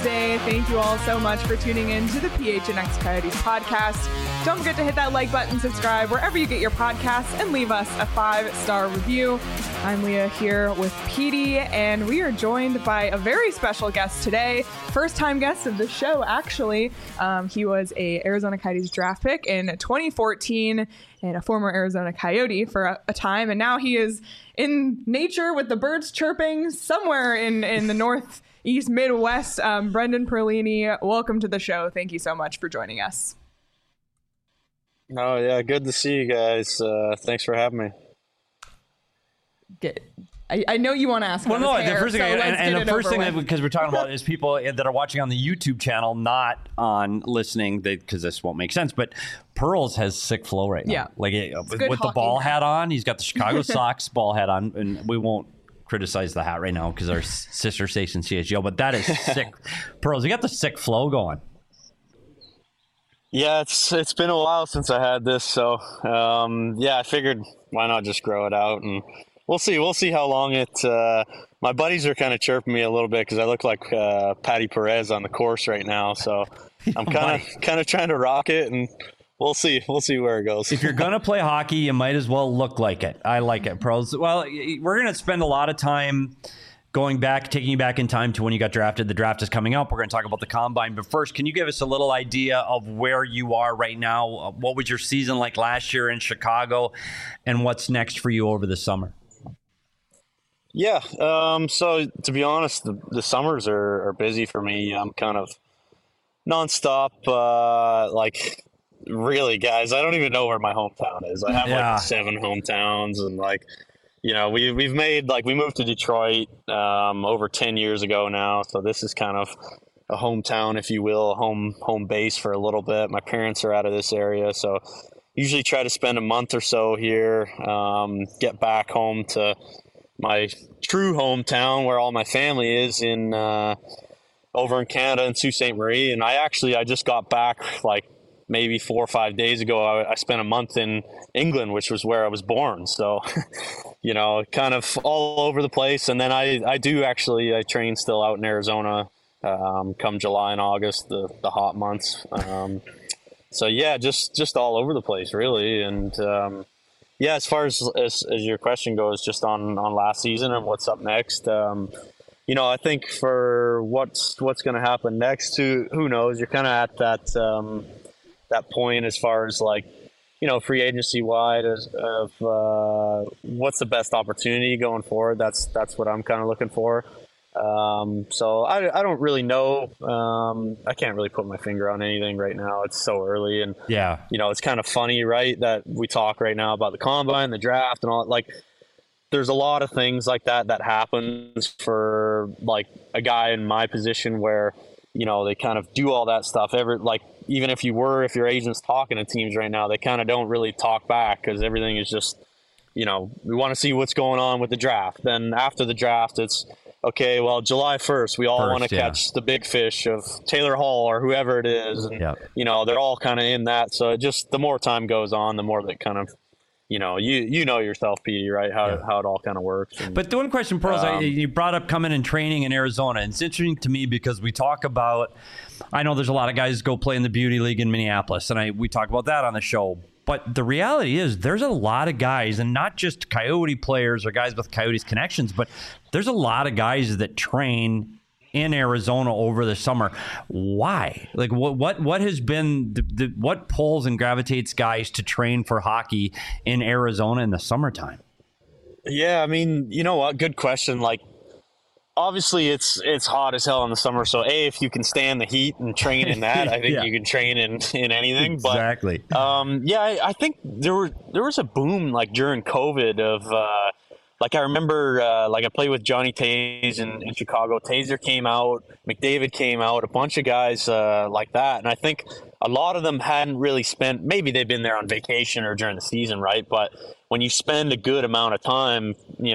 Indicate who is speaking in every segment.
Speaker 1: Wednesday. Thank you all so much for tuning in to the PHNX Coyotes podcast. Don't forget to hit that like button, subscribe wherever you get your podcasts, and leave us a 5-star review. I'm Leah here with Petey, and we are joined by a very special guest today. First-time guest of the show, actually. He was a Arizona Coyotes draft pick in 2014 and a former Arizona Coyote for a time, and now he is in nature with the birds chirping somewhere in the Northeast Midwest. Brendan Perlini, welcome to the show. Thank you so much for joining us.
Speaker 2: Oh, yeah. Good to see you guys. Thanks for having me.
Speaker 1: I know you want to ask.
Speaker 3: Well, no, the first thing, because we're talking about is people that are watching on the YouTube channel, not on listening, because this won't make sense. But Pearls has sick flow right now.
Speaker 1: Yeah,
Speaker 3: like with the ball hat on, he's got the Chicago Sox ball hat on, and we won't criticize the hat right now because our sister station CHGO. But that is sick. Pearls, you got the sick flow going.
Speaker 2: Yeah, it's been a while since I had this, so I figured why not just grow it out, and we'll see how long it. My buddies are kind of chirping me a little bit because I look like Patty Perez on the course right now, so I'm kind of trying to rock it, and we'll see where it goes.
Speaker 3: If you're gonna play hockey, you might as well look like it. I like it, Pearls. Well, we're gonna spend a lot of time taking you back in time to when you got drafted. The draft is coming up. We're going to talk about the combine. But first, can you give us a little idea of where you are right now? What was your season like last year in Chicago? And what's next for you over the summer?
Speaker 2: Yeah. So to be honest, the summers are busy for me. I'm kind of nonstop. Really, guys, I don't even know where my hometown is. I have 7 hometowns, and we've made, we moved to Detroit over 10 years ago now, so this is kind of a hometown, if you will, home base for a little bit. My parents are out of this area, so usually try to spend a month or so here, get back home to my true hometown where all my family is over in Canada in Sault Ste. Marie. And I just got back maybe 4 or 5 days ago. I spent a month in England, which was where I was born. So, kind of all over the place. And then I train still out in Arizona come July and August, the hot months. So yeah, just all over the place really. And as far as your question goes, just on last season and what's up next, I think for what's going to happen next, who knows? You're kind of at that point as far as free agency wide of what's the best opportunity going forward. That's what I'm kind of looking for. So I don't really know. I can't really put my finger on anything right now. It's so early, and it's kind of funny, right, that we talk right now about the combine, the draft, and all. There's a lot of things like that happens for a guy in my position where they kind of do all that stuff. Even if your agent's talking to teams right now, they kind of don't really talk back because everything is just, we want to see what's going on with the draft. Then after the draft, it's, okay, well, July 1st, we all want to catch the big fish of Taylor Hall or whoever it is. And, they're all kind of in that. So the more time goes on, the more that kind of, you know yourself, Petey, right? How it all kind of works. And,
Speaker 3: but the one question, Pearls, you brought up coming and training in Arizona. It's interesting to me because we talk about, I know there's a lot of guys go play in the Beauty League in Minneapolis, and we talk about that on the show. But the reality is there's a lot of guys, and not just Coyote players or guys with Coyotes connections, but there's a lot of guys that train in Arizona over the summer. Why? What has been what pulls and gravitates guys to train for hockey in Arizona in the summertime?
Speaker 2: Yeah, I mean, you know what? Good question. Obviously it's hot as hell in the summer. So if you can stand the heat and train in that, I think you can train in anything.
Speaker 3: Exactly.
Speaker 2: But I think there was a boom during COVID of I remember I played with Johnny Taze in Chicago. Taser came out, McDavid came out, a bunch of guys like that. And I think a lot of them hadn't really spent, maybe they've been there on vacation or during the season, right? But when you spend a good amount of time,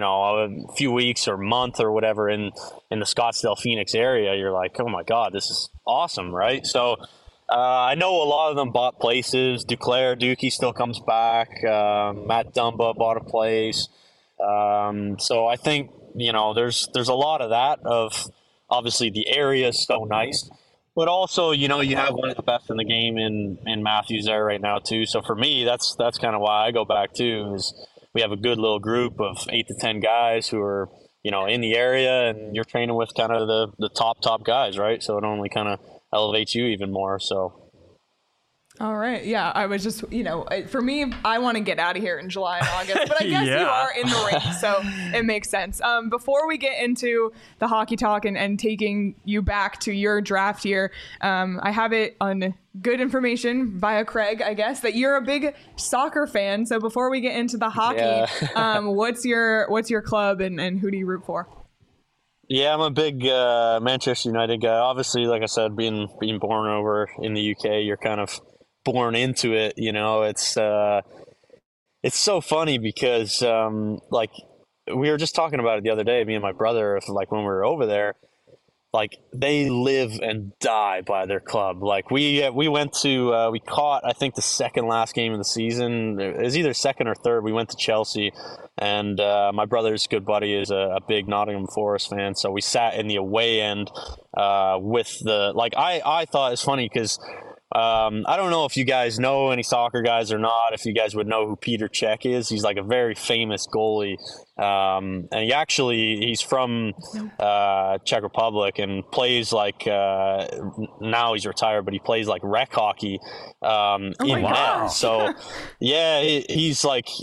Speaker 2: a few weeks or month or whatever in the Scottsdale, Phoenix area, you're like, oh my God, this is awesome, right? So I know a lot of them bought places. Dookie still comes back. Matt Dumba bought a place. So I think, there's a lot of that of obviously the area is so nice. But also, you know, you have one of the best in the game in Matthews there right now too. So for me, that's kind of why I go back too. Is we have a good little group of 8 to 10 guys who are, you know, in the area, and you're training with kind of the top guys, right? So it only kind of elevates you even more. So.
Speaker 1: All right. Yeah, I was just, you know, for me, I want to get out of here in July and August, but I guess you are in the ring, so it makes sense. Before we get into the hockey talk and taking you back to your draft year, I have it on good information via Craig, I guess, that you're a big soccer fan. So before we get into the hockey, what's your club and who do you root for?
Speaker 2: Yeah, I'm a big Manchester United guy. Obviously, like I said, being born over in the UK, you're kind of born into it, you know. It's so funny because like we were just talking about it the other day, me and my brother, like when we were over there, like they live and die by their club. Like we went to we caught, I think, the second last game of the season. It was either second or third. We went to Chelsea, and my brother's good buddy is a big Nottingham Forest fan, so we sat in the away end with the, like, I thought it's funny because I don't know if you guys know any soccer guys or not, if you guys would know who Peter Cech is. He's like a very famous goalie. And he's from Czech Republic and plays like, now he's retired, but he plays like rec hockey in net. So yeah, he's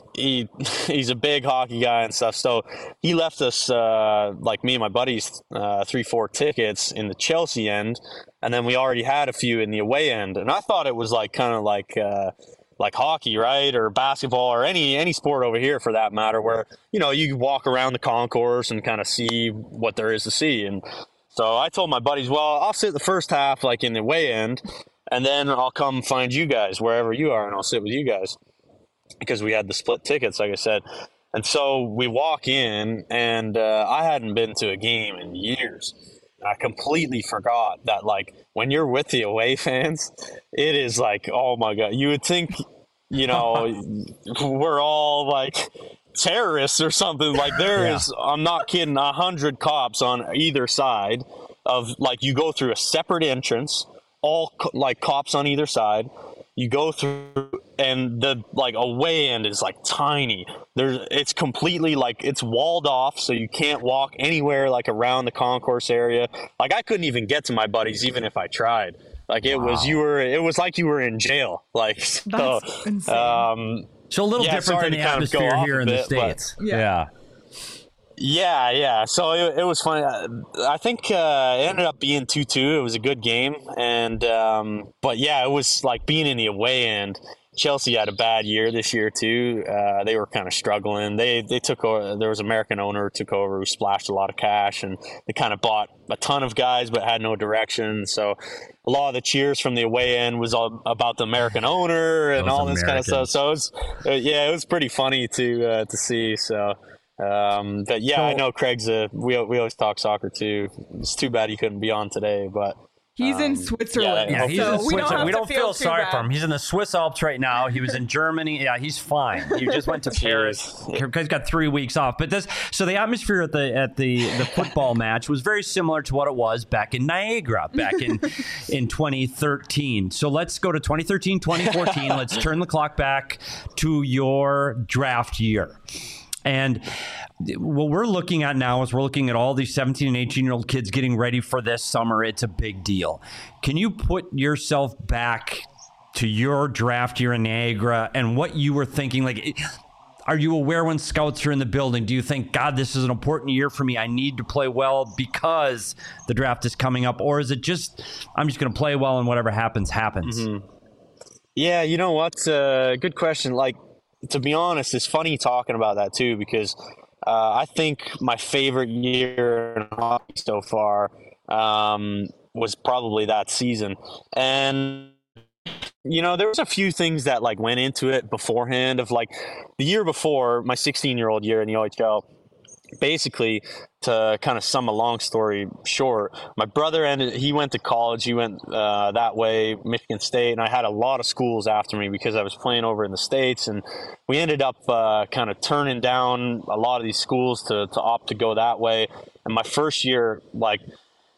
Speaker 2: a big hockey guy and stuff. So he left us, like me and my buddies, 3-4 tickets in the Chelsea end. And then we already had a few in the away end. And I thought it was like kind of like hockey, right? Or basketball or any sport over here for that matter, where, you know, you walk around the concourse and kind of see what there is to see. And so I told my buddies, well, I'll sit the first half like in the away end, and then I'll come find you guys wherever you are, and I'll sit with you guys, because we had the split tickets, like I said. And so we walk in, and I hadn't been to a game in years. I completely forgot that, like, when you're with the away fans, it is like, oh my God, you would think, you know, we're all like terrorists or something. Like there is, I'm not kidding, 100 cops on either side of, like, you go through a separate entrance, all like cops on either side. You go through, and the like away end is like tiny. It's completely like it's walled off, so you can't walk anywhere like around the concourse area. Like I couldn't even get to my buddies even if I tried. Like it was like you were in jail. Like so,
Speaker 1: that's insane.
Speaker 3: So a little different than the atmosphere here in the States.
Speaker 2: Yeah. So it was funny. I think it ended up being 2-2. It was a good game, and but yeah, it was like being in the away end. Chelsea had a bad year this year too. They were kind of struggling. They took over. There was an American owner who took over, who splashed a lot of cash, and they kind of bought a ton of guys but had no direction. So a lot of the cheers from the away end was all about the American owner and all this kind of stuff. So it was pretty funny to see. So. But yeah, I know Craig's we always talk soccer too. It's too bad he couldn't be on today, but
Speaker 1: he's in Switzerland.
Speaker 3: Yeah, he's in Switzerland. We don't feel sorry
Speaker 1: bad
Speaker 3: for him. He's in the Swiss Alps right now. He was in Germany. Yeah, he's fine. He just went to Paris. He's got 3 weeks off. But so the atmosphere at the football match was very similar to what it was back in Niagara back in 2013. So let's go to 2013, 2014. Let's turn the clock back to your draft year. And what we're looking at now is we're looking at all these 17 and 18-year-old kids getting ready for this summer. It's a big deal. Can you put yourself back to your draft year in Niagara and what you were thinking? Like, are you aware when scouts are in the building? Do you think, God, this is an important year for me. I need to play well because the draft is coming up? Or is it just, I'm just going to play well and whatever happens, happens?
Speaker 2: Mm-hmm. Yeah, you know what? Good question. Like, to be honest, it's funny talking about that too, because I think my favorite year in hockey so far was probably that season. And, you know, there was a few things that like went into it beforehand. Of like the year before, my 16-year-old year in the OHL, basically, to kind of sum a long story short, my brother he went to college. He went that way, Michigan State, and I had a lot of schools after me because I was playing over in the States, and we ended up kind of turning down a lot of these schools to opt to go that way. And my first year, like,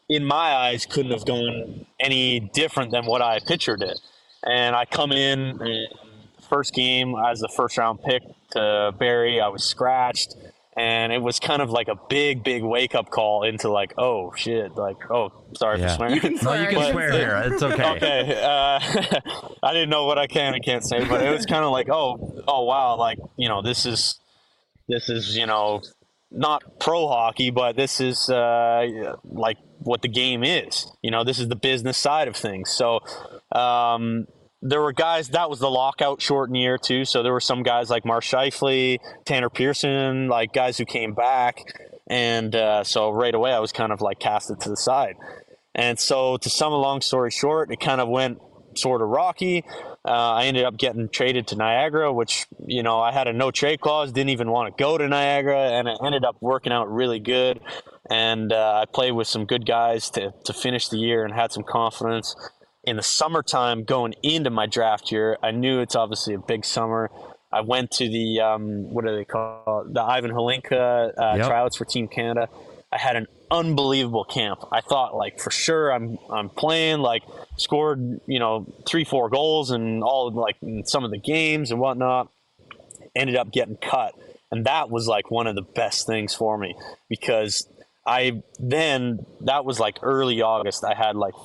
Speaker 2: in my eyes, couldn't have gone any different than what I pictured it. And I come in, and first game as the first round pick to Barrie, I was scratched. And it was kind of like a big wake up call into like, oh shit, like, oh, sorry for swearing.
Speaker 1: You can swear.
Speaker 3: No, you can swear here. It's okay.
Speaker 2: Okay. I didn't know what I can and can't say, but it was kind of like, oh wow, like, you know, this is, you know, not pro hockey, but this is like what the game is. You know, this is the business side of things. So there were guys, that was the lockout shortened year too. So there were some guys like Mark Scheifele, Tanner Pearson, like guys who came back. And so right away I was kind of like casted to the side. And so to sum a long story short, it kind of went sort of rocky. I ended up getting traded to Niagara, which, you know, I had a no trade clause, didn't even want to go to Niagara, and it ended up working out really good. And I played with some good guys to finish the year and had some confidence. In the summertime, going into my draft year, I knew it's obviously a big summer. I went to the, what do they call it? The Ivan Holinka tryouts for Team Canada. I had an unbelievable camp. I thought, like, for sure I'm playing, like, scored, you know, 3-4 goals and all, like, in some of the games and whatnot. Ended up getting cut. And that was, like, one of the best things for me, because that was like early August. I had like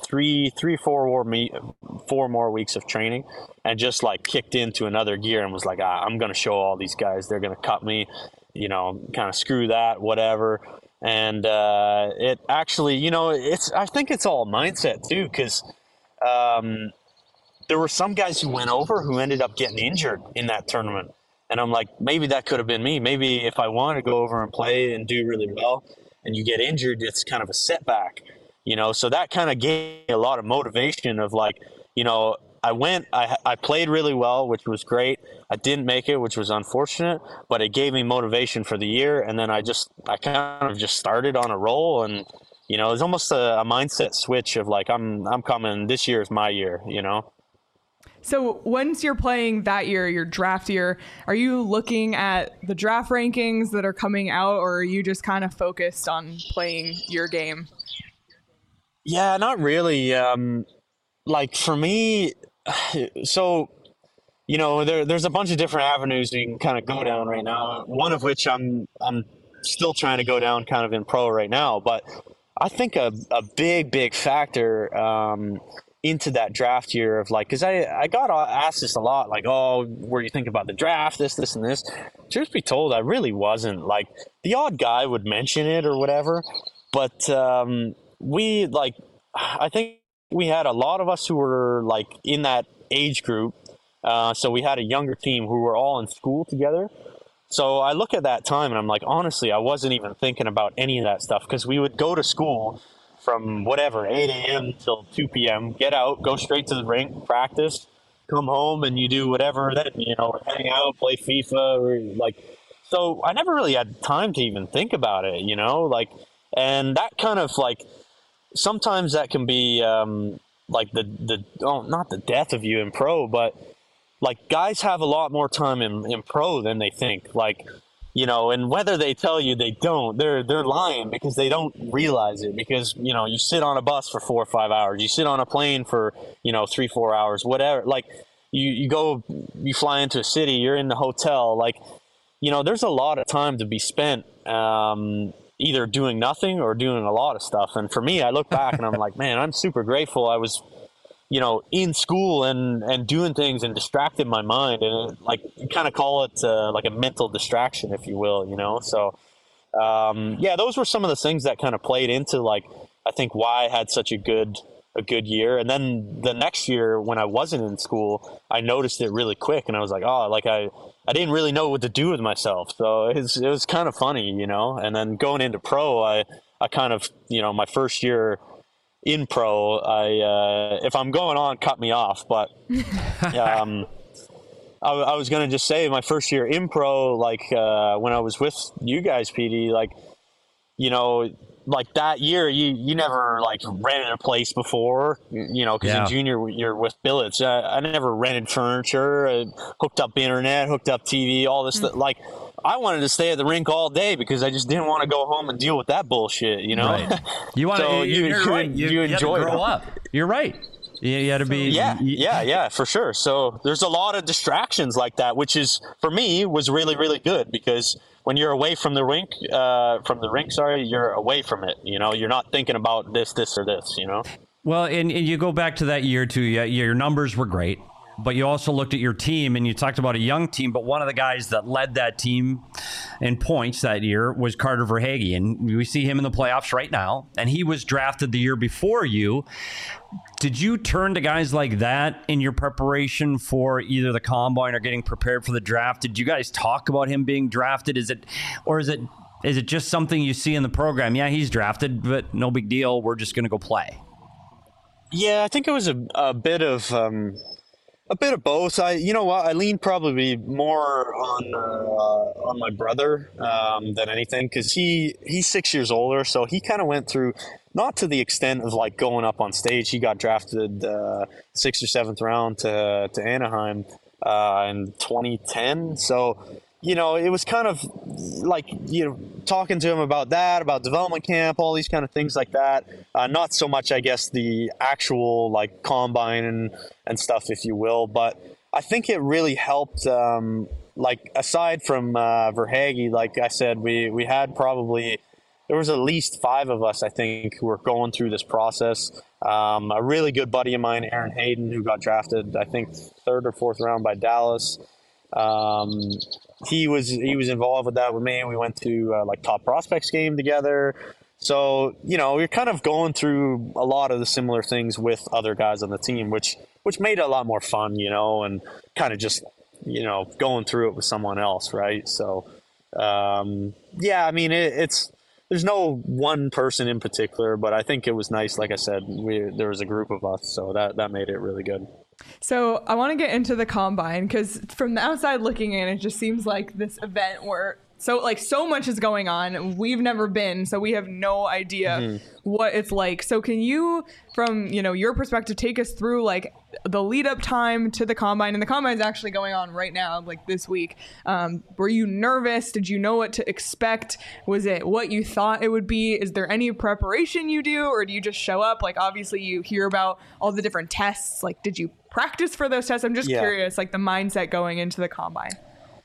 Speaker 2: 4 more weeks of training, and just like kicked into another gear and was like, I'm going to show all these guys, they're going to cut me, you know, kind of screw that, whatever. And it actually, you know, I think it's all mindset too, because there were some guys who went over who ended up getting injured in that tournament. And I'm like, maybe that could have been me. Maybe if I want to go over and play and do really well, and you get injured, it's kind of a setback, you know? So that kind of gave me a lot of motivation of like, you know, I played really well, which was great. I didn't make it, which was unfortunate, but it gave me motivation for the year. And then I kind of just started on a roll, and, you know, it's almost a mindset switch of like, I'm coming, this year is my year, you know?
Speaker 1: So once you're playing that year, your draft year, are you looking at the draft rankings that are coming out, or are you just kind of focused on playing your game?
Speaker 2: Yeah, not really. Like for me, so, you know, there's a bunch of different avenues you can kind of go down right now. One of which I'm still trying to go down kind of in pro right now. But I think a big factor into that draft year of like, because I got asked this a lot, like, oh, what do you think about the draft, this and this. Truth be told, I really wasn't. Like, the odd guy would mention it or whatever, but I think we had a lot of us who were like in that age group, so we had a younger team who were all in school together. So I look at that time and I'm like, honestly, I wasn't even thinking about any of that stuff, because we would go to school from whatever, 8 a.m. till 2 p.m., get out, go straight to the rink, practice, come home, and you do whatever then, you know, hang out, play FIFA, or like, so I never really had time to even think about it, you know, like, and that kind of like, sometimes that can be like not the death of you in pro, but like guys have a lot more time in pro than they think, like, you know, and whether they tell you they don't, they're lying, because they don't realize it. Because, you know, you sit on a bus for 4 or 5 hours, you sit on a plane for, you know, 3-4 hours, whatever. Like you fly into a city, you're in the hotel, like, you know, there's a lot of time to be spent either doing nothing or doing a lot of stuff. And for me, I look back and I'm like, man, I'm super grateful I was, you know, in school and doing things and distracted my mind, and like, you kind of call it like a mental distraction, if you will, you know? So, yeah, those were some of the things that kind of played into like, I think why I had such a good year. And then the next year when I wasn't in school, I noticed it really quick, and I was like, oh, like I didn't really know what to do with myself. So it was kind of funny, you know? And then going into pro, I kind of, you know, my first year in pro, if I'm going on, cut me off, but I was going to just say my first year in pro, like when I was with you guys, PD, like, you know, like that year, you never like rented a place before, because in junior you're with billets. I never rented furniture, hooked up internet, hooked up TV, all this stuff. Like, I wanted to stay at the rink all day because I just didn't want to go home and deal with that bullshit,
Speaker 3: Right. You want
Speaker 2: so
Speaker 3: to, you're right. You
Speaker 2: enjoy
Speaker 3: to grow up. You're right. You had to be.
Speaker 2: Yeah, for sure. So there's a lot of distractions like that, which is, for me, was really, really good, because when you're away from the rink, you're away from it. You're not thinking about this, or this,
Speaker 3: Well, and you go back to that year too. Your numbers were great, but you also looked at your team and you talked about a young team, but one of the guys that led that team in points that year was Carter Verhaeghe, and we see him in the playoffs right now, and he was drafted the year before you. Did you turn to guys like that in your preparation for either the combine or getting prepared for the draft? Did you guys talk about him being drafted? Is it just something you see in the program? Yeah, he's drafted, but no big deal. We're just going to go play.
Speaker 2: Yeah, I think it was a bit of both. I lean probably more on my brother than anything, because he's 6 years older, so he kind of went through, not to the extent of like going up on stage. He got drafted 6th or 7th round to Anaheim in 2010. So it was kind of like, talking to him about that, about development camp, all these kind of things like that. Not so much, I guess, the actual like combine and stuff, if you will. But I think it really helped, like, aside from Verhaeghe, like I said, we had probably, there was at least 5 of us, I think, who were going through this process. A really good buddy of mine, Aaron Hayden, who got drafted, I think, 3rd or 4th round by Dallas. He was involved with that with me. We went to like Top Prospects game together. So, we're kind of going through a lot of the similar things with other guys on the team, which made it a lot more fun, and kind of just, going through it with someone else. Right. So, yeah, I mean, there's no one person in particular, but I think it was nice. Like I said, there was a group of us, so that made it really good.
Speaker 1: So I want to get into the combine, because from the outside looking in, it just seems like this event where so much is going on. We've never been, so we have no idea what it's like. So can you, from your perspective, take us through like the lead up time to the combine? And the combine is actually going on right now, like this week. Were you nervous? Did you know what to expect? Was it what you thought it would be? Is there any preparation you do, or do you just show up? Like, obviously you hear about all the different tests. Like, did you practice for those tests? I'm just curious, like the mindset going into the combine.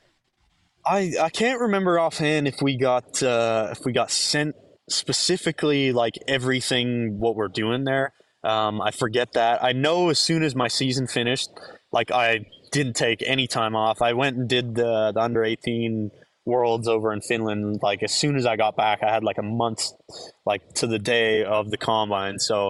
Speaker 2: I can't remember offhand if we got sent specifically like everything what we're doing there. I forget that. I know as soon as my season finished, like, I didn't take any time off. I went and did the under 18 Worlds over in Finland. Like, as soon as I got back, I had like a month, like, to the day of the combine. So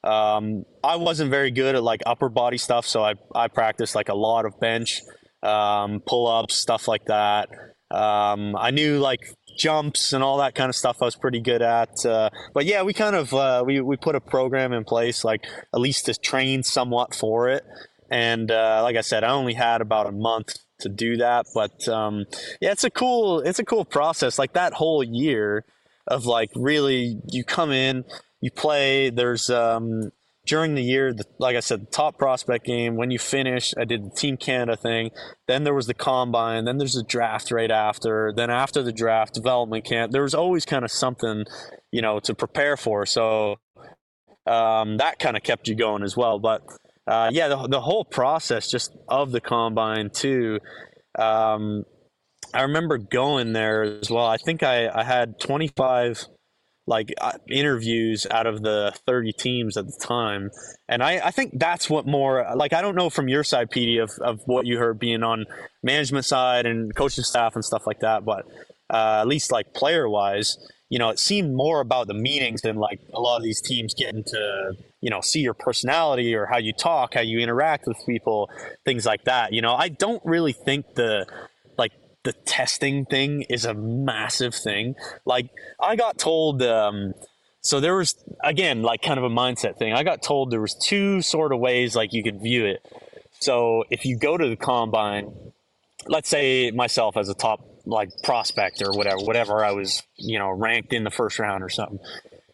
Speaker 2: I wasn't very good at like upper body stuff, so I practiced like a lot of bench, pull-ups, stuff like that. I knew like jumps and all that kind of stuff I was pretty good at. But yeah, we kind of we put a program in place, like, at least to train somewhat for it. And like I said, I only had about a month to do that. But yeah, it's a cool process. Like, that whole year of like, really, you come in, you play. There's during the year, like I said, the Top Prospect game. When you finish, I did the Team Canada thing. Then there was the combine. Then there's a draft right after. Then after the draft, development camp. There was always kind of something, to prepare for. So that kind of kept you going as well. But yeah, the whole process just of the combine too. I remember going there as well. I think I had 25 interviews out of the 30 teams at the time. And I think that's what more, like, I don't know from your side, Petey, of what you heard being on management side and coaching staff and stuff like that. But at least like player wise, it seemed more about the meetings than like a lot of these teams getting to, see your personality or how you talk, how you interact with people, things like that. I don't really think the testing thing is a massive thing. Like, I got told, so there was, again, like, kind of a mindset thing. I got told there was 2 sort of ways, like, you could view it. So if you go to the combine, let's say myself as a top, like, prospect or whatever I was, ranked in the first round or something.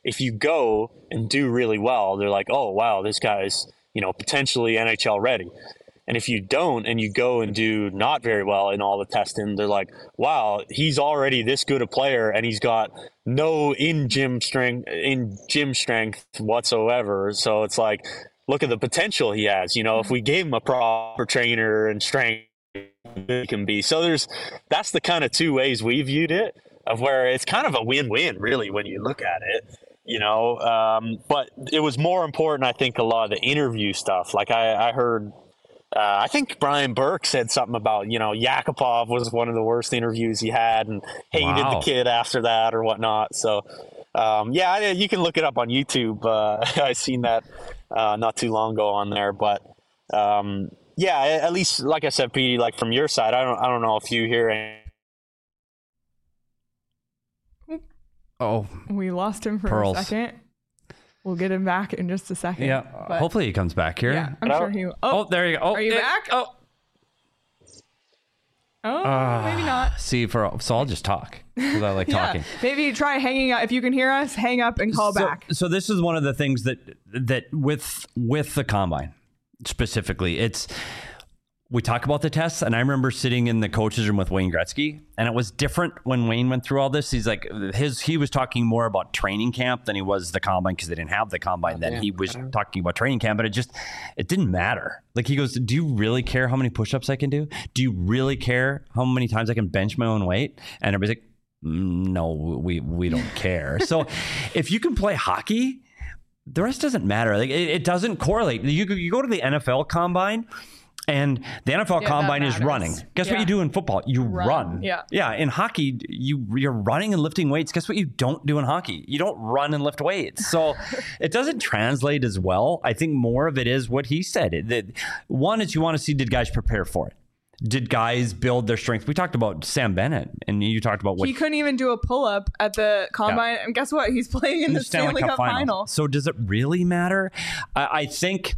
Speaker 2: if you go and do really well, they're like, oh, wow, this guy's, potentially NHL ready. And if you don't and you go and do not very well in all the testing, they're like, wow, he's already this good a player and he's got no in gym strength whatsoever. So it's like, look at the potential he has. If we gave him a proper trainer and strength, he can be. So that's the kind of two ways we viewed it, of where it's kind of a win-win really when you look at it. But it was more important, I think, a lot of the interview stuff. Like I heard, I think Brian Burke said something about, Yakupov was one of the worst interviews he had and hated the kid after that or whatnot. So, you can look it up on YouTube. I seen that not too long ago on there. But, at least, like I said, Petey, like from your side, I don't know if you hear any.
Speaker 3: Oh,
Speaker 1: we lost him for a second. We'll get him back in just a second.
Speaker 3: Yeah,
Speaker 1: but
Speaker 3: hopefully he comes back here.
Speaker 1: Yeah, I'm sure he will.
Speaker 3: Oh, there you go. Oh,
Speaker 1: are you back?
Speaker 3: Oh,
Speaker 1: maybe not.
Speaker 3: So I'll just talk because I like talking.
Speaker 1: Maybe try hanging up. If you can hear us, hang up and call back.
Speaker 3: So this is one of the things that with the combine specifically, we talk about the tests, and I remember sitting in the coaches room with Wayne Gretzky, and it was different when Wayne went through all this. He's like, he was talking more about training camp than he was the combine, because they didn't have the combine then. He was talking about training camp, but it didn't matter. Like, he goes, do you really care how many push-ups I can do? Do you really care how many times I can bench my own weight? And everybody's like, no, we don't care. So if you can play hockey, the rest doesn't matter. Like, it doesn't correlate. You go to the NFL combine, and the NFL combine is running. Guess what you do in football? You run. Yeah. In hockey, you're running and lifting weights. Guess what you don't do in hockey? You don't run and lift weights. So it doesn't translate as well. I think more of it is what he said. One is you want to see, did guys prepare for it? Did guys build their strength? We talked about Sam Bennett, and you talked about what
Speaker 1: he couldn't even do a pull-up at the combine. And guess what? He's playing in the Stanley Cup final.
Speaker 3: So does it really matter? I think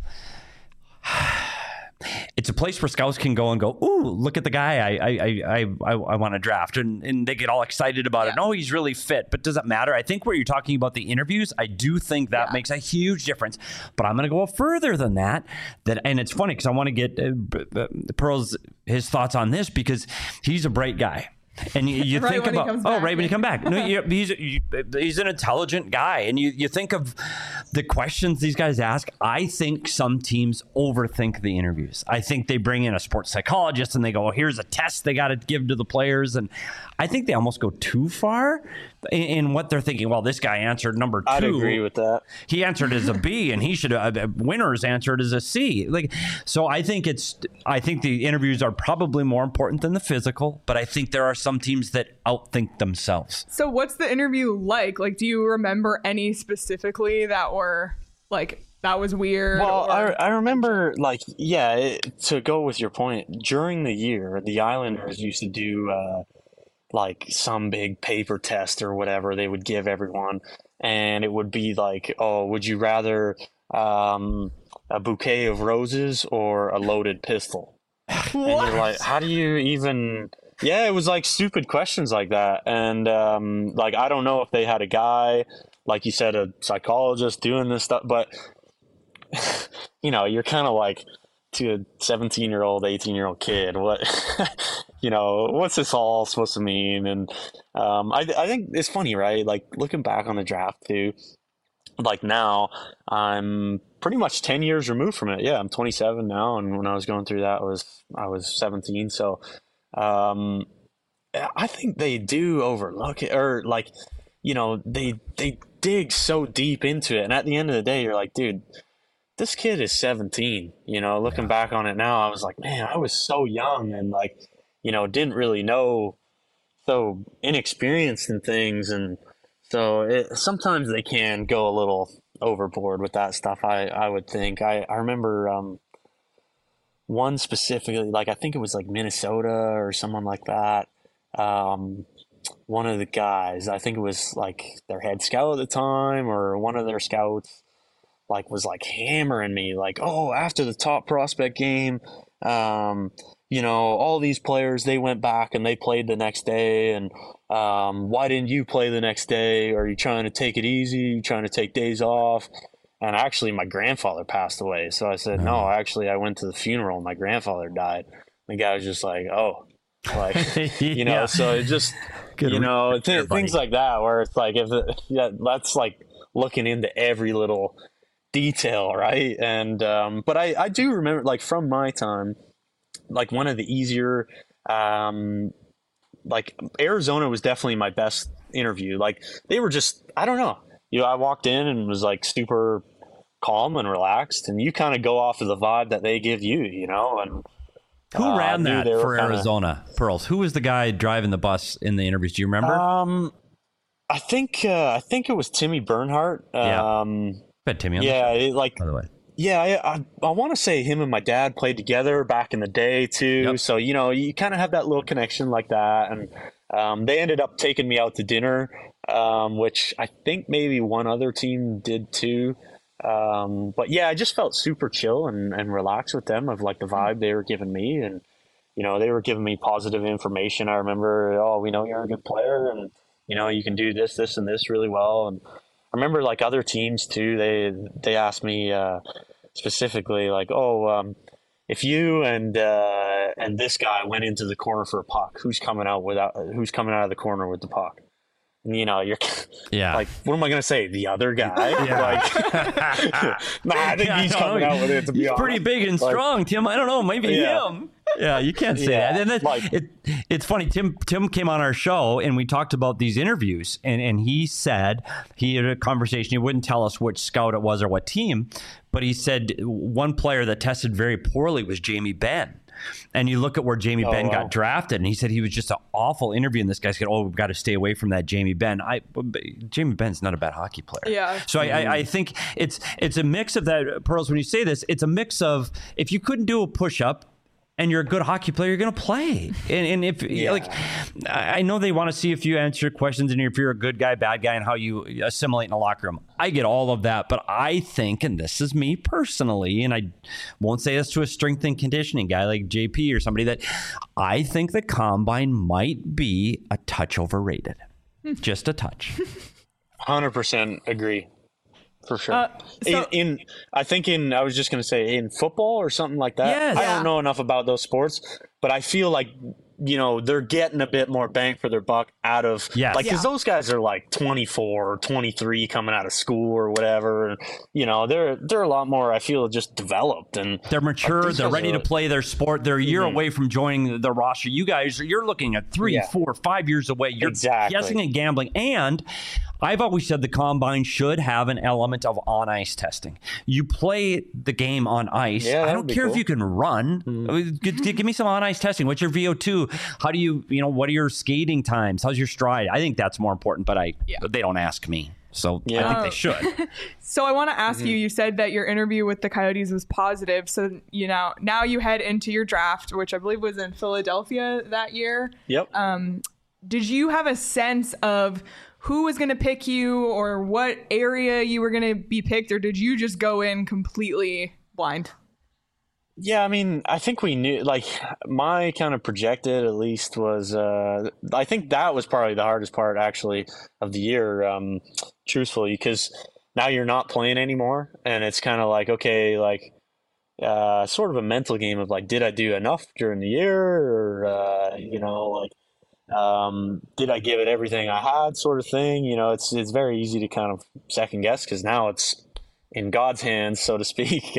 Speaker 3: it's a place where scouts can go and go, ooh, look at the guy I want to draft. And they get all excited about it. No, he's really fit. But does it matter? I think where you're talking about the interviews, I do think that makes a huge difference. But I'm going to go further than that. And it's funny because I want to get his thoughts on this, because he's a bright guy. And you think about, right when you come back. No, he's an intelligent guy. And you think of the questions these guys ask. I think some teams overthink the interviews. I think they bring in a sports psychologist and they go, here's a test they got to give to the players. And I think they almost go too far in what they're thinking. Well, this guy answered number 2.
Speaker 2: I'd agree with that.
Speaker 3: He answered as a B, and he should winners answered as a C. So I think the interviews are probably more important than the physical, but I think there are some teams that outthink themselves.
Speaker 1: So what's the interview like? Like, do you remember any specifically that were like, that was weird?
Speaker 2: Well, I remember, to go with your point, during the year, the Islanders used to do some big paper test or whatever they would give everyone, and it would be like, oh, would you rather a bouquet of roses or a loaded pistol?
Speaker 1: What?
Speaker 2: And you're like, how do you even... Yeah, it was like stupid questions like that. And I don't know if they had a guy, like you said, a psychologist doing this stuff, but you're kind of like, to a 17-year-old, 18-year-old kid, what's this all supposed to mean? And I think it's funny, right? Like, looking back on the draft too, like now I'm pretty much 10 years removed from it. Yeah, I'm 27 now, and when I was going through that, I was 17. So I think they do overlook it, or they dig so deep into it, and at the end of the day, you're like, dude, this kid is 17. Looking back on it now, I was like, man, I was so young and didn't really know, so inexperienced in things. And so sometimes they can go a little overboard with that stuff, I would think. I remember one specifically, I think it was Minnesota or someone like that. One of the guys, I think it was their head scout at the time, or one of their scouts, was hammering me, after the top prospect game, all these players, they went back and they played the next day, and why didn't you play the next day? Are you trying to take it easy? Are you trying to take days off? And actually, my grandfather passed away. So I said, no, actually, I went to the funeral and my grandfather died. The guy was just like, oh, like, you know, so it just, you know, things like that, where it's like, that's like looking into every little detail, right? And, but I do remember, like, from my time, like, one of the easier, like, Arizona was definitely my best interview. Like, they were just, I don't know. You know, I walked in and was like super calm and relaxed, and you kind of go off of the vibe that they give you, you know. And
Speaker 3: who ran that for Arizona, Pearls? Who was the guy driving the bus in the interviews? Do you remember?
Speaker 2: I think it was Timmy Bernhardt.
Speaker 3: Bet Timmy.
Speaker 2: Yeah, like, by
Speaker 3: the way.
Speaker 2: Yeah, I want to say him and my dad played together back in the day too. Yep. So, you know, you kind of have that little connection like that. And they ended up taking me out to dinner, which I think maybe one other team did too. But yeah, I just felt super chill and relaxed with them, of like the vibe they were giving me. And, you know, they were giving me positive information. I remember, oh, we know you're a good player, and, you know, you can do this, this, and this really well. And I remember, like, other teams too, they asked me specifically, like, oh, if you and this guy went into the corner for a puck, who's coming out of the corner with the puck? And, you know, you're like, what am I going to say? The other guy? I think he's coming out with it, to be honest.
Speaker 3: He's pretty big and strong, Tim. I don't know, maybe him. Yeah, you can't say that. And it's funny. Tim came on our show and we talked about these interviews, and he said he had a conversation. He wouldn't tell us which scout it was or what team, but he said one player that tested very poorly was Jamie Benn. And you look at where Jamie Benn got drafted, and he said he was just an awful interview. And this guy said, we've got to stay away from that Jamie Benn. Jamie Benn's not a bad hockey player. Yeah. So I think it's a mix of that, Pearls, when you say this, it's a mix of, if you couldn't do a push-up and you're a good hockey player, you're going to play. And if like, I know they want to see if you answer questions and if you're a good guy, bad guy, and how you assimilate in a locker room. I get all of that, but I think, and this is me personally, and I won't say this to a strength and conditioning guy like JP or somebody, that I think the combine might be a touch overrated. Just a touch.
Speaker 2: 100% agree. For sure. I was just going to say, in football or something like that. Yes. I don't know enough about those sports, but I feel like, you know, they're getting a bit more bang for their buck out of, because those guys are like 24 or 23 coming out of school or whatever. You know, they're a lot more, I feel, just developed, and
Speaker 3: they're mature. They're ready to play their sport. They're a year away from joining the roster. You guys, you're looking at 3, 4, 5 years away. You're guessing and gambling. And I've always said the combine should have an element of on-ice testing. You play the game on ice. I don't care if you can run. Give me some on-ice testing. What's your VO2? How do you what are your skating times? How's your stride? I think that's more important, but they don't ask me. So I think they should.
Speaker 1: So I want to ask you said that your interview with the Coyotes was positive. So, you know, now you head into your draft, which I believe was in Philadelphia that year.
Speaker 2: Yep.
Speaker 1: Did you have a sense of who was going to pick you or what area you were going to be picked, or did you just go in completely blind?
Speaker 2: Yeah, I mean, I think we knew, like, my kind of projected, at least, was, I think that was probably the hardest part, actually, of the year, truthfully, because now you're not playing anymore, and it's kind of like, okay, like, sort of a mental game of, like, did I do enough during the year, or, you know, like, did I give it everything I had, sort of thing. You know, it's very easy to kind of second guess, because now it's in God's hands, so to speak.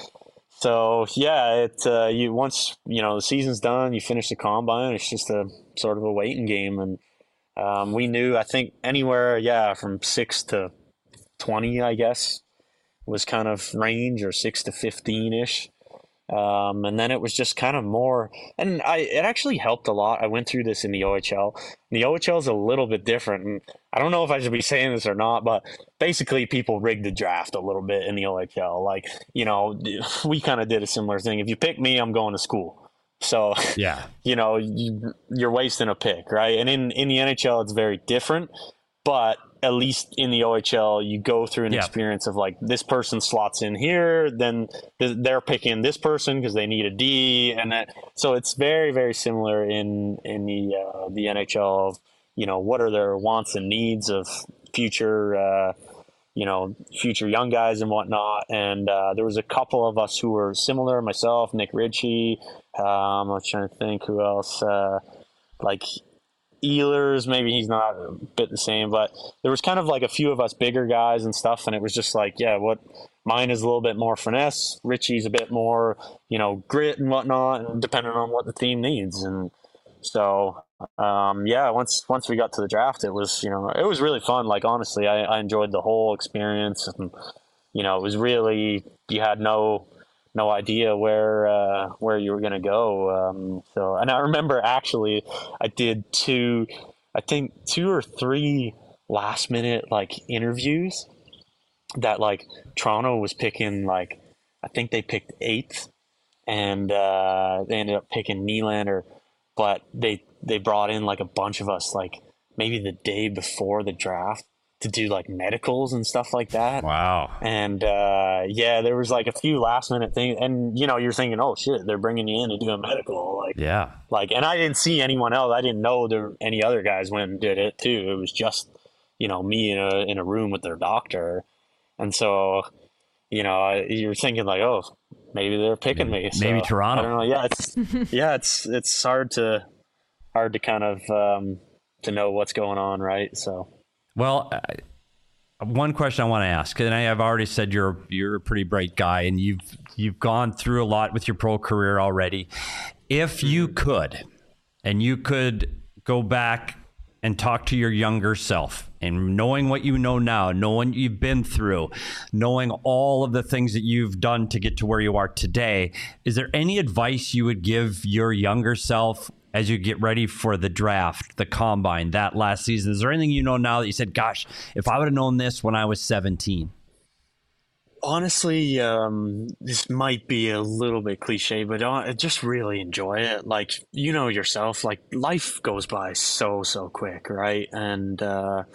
Speaker 2: So yeah, you once, you know, the season's done, you finish the combine, it's just a sort of a waiting game. And we knew, I think, anywhere from 6 to 20, I guess, was kind of range, or 6 to 15-ish. And then it was just kind of more, and it actually helped a lot. I went through this in the OHL. The OHL is a little bit different, and I don't know if I should be saying this or not, but basically people rigged the draft a little bit in the OHL. Like, you know, we kind of did a similar thing. If you pick me, I'm going to school. So, you know, you're wasting a pick, right? And in the NHL, it's very different, but at least in the OHL, you go through an experience of, like, this person slots in here, then they're picking this person because they need a D, and that. So it's very, very similar in the NHL. what are their wants and needs of future, future young guys and whatnot. And there was a couple of us who were similar, myself, Nick Ritchie. I'm trying to think who else, like Ehlers, maybe he's not a bit the same, but there was kind of like a few of us bigger guys and stuff. And it was just like, what mine is a little bit more finesse. Richie's a bit more, grit and whatnot, and depending on what the team needs. And so, once we got to the draft, it was, it was really fun. Like, honestly, I enjoyed the whole experience, and, it was really, you had no idea where you were going to go. And I remember actually I did two or three last minute like interviews that like Toronto was picking, like, I think they picked 8th, and they ended up picking Nylander, but they brought in like a bunch of us, like maybe the day before the draft, to do like medicals and stuff like that.
Speaker 3: Wow.
Speaker 2: And there was like a few last minute things, and you're thinking, oh shit, they're bringing you in to do a medical, like, yeah, like, and I didn't see anyone else. I didn't know there were any other guys went and did it too. It was just me in a room with their doctor. And so you're thinking like, oh, maybe they're picking me. So,
Speaker 3: maybe Toronto.
Speaker 2: I don't know. It's hard to kind of to know what's going on, right? So.
Speaker 3: Well, one question I want to ask, and I have already said you're a pretty bright guy, and you've gone through a lot with your pro career already. If you could, and you could go back and talk to your younger self, and knowing what you know now, knowing what you've been through, knowing all of the things that you've done to get to where you are today, is there any advice you would give your younger self as you get ready for the draft, the combine, that last season? Is there anything you know now that you said, gosh, if I would have known this when I was 17?
Speaker 2: Honestly, this might be a little bit cliche, but I just really enjoy it. Like, yourself, like, life goes by so quick, right? And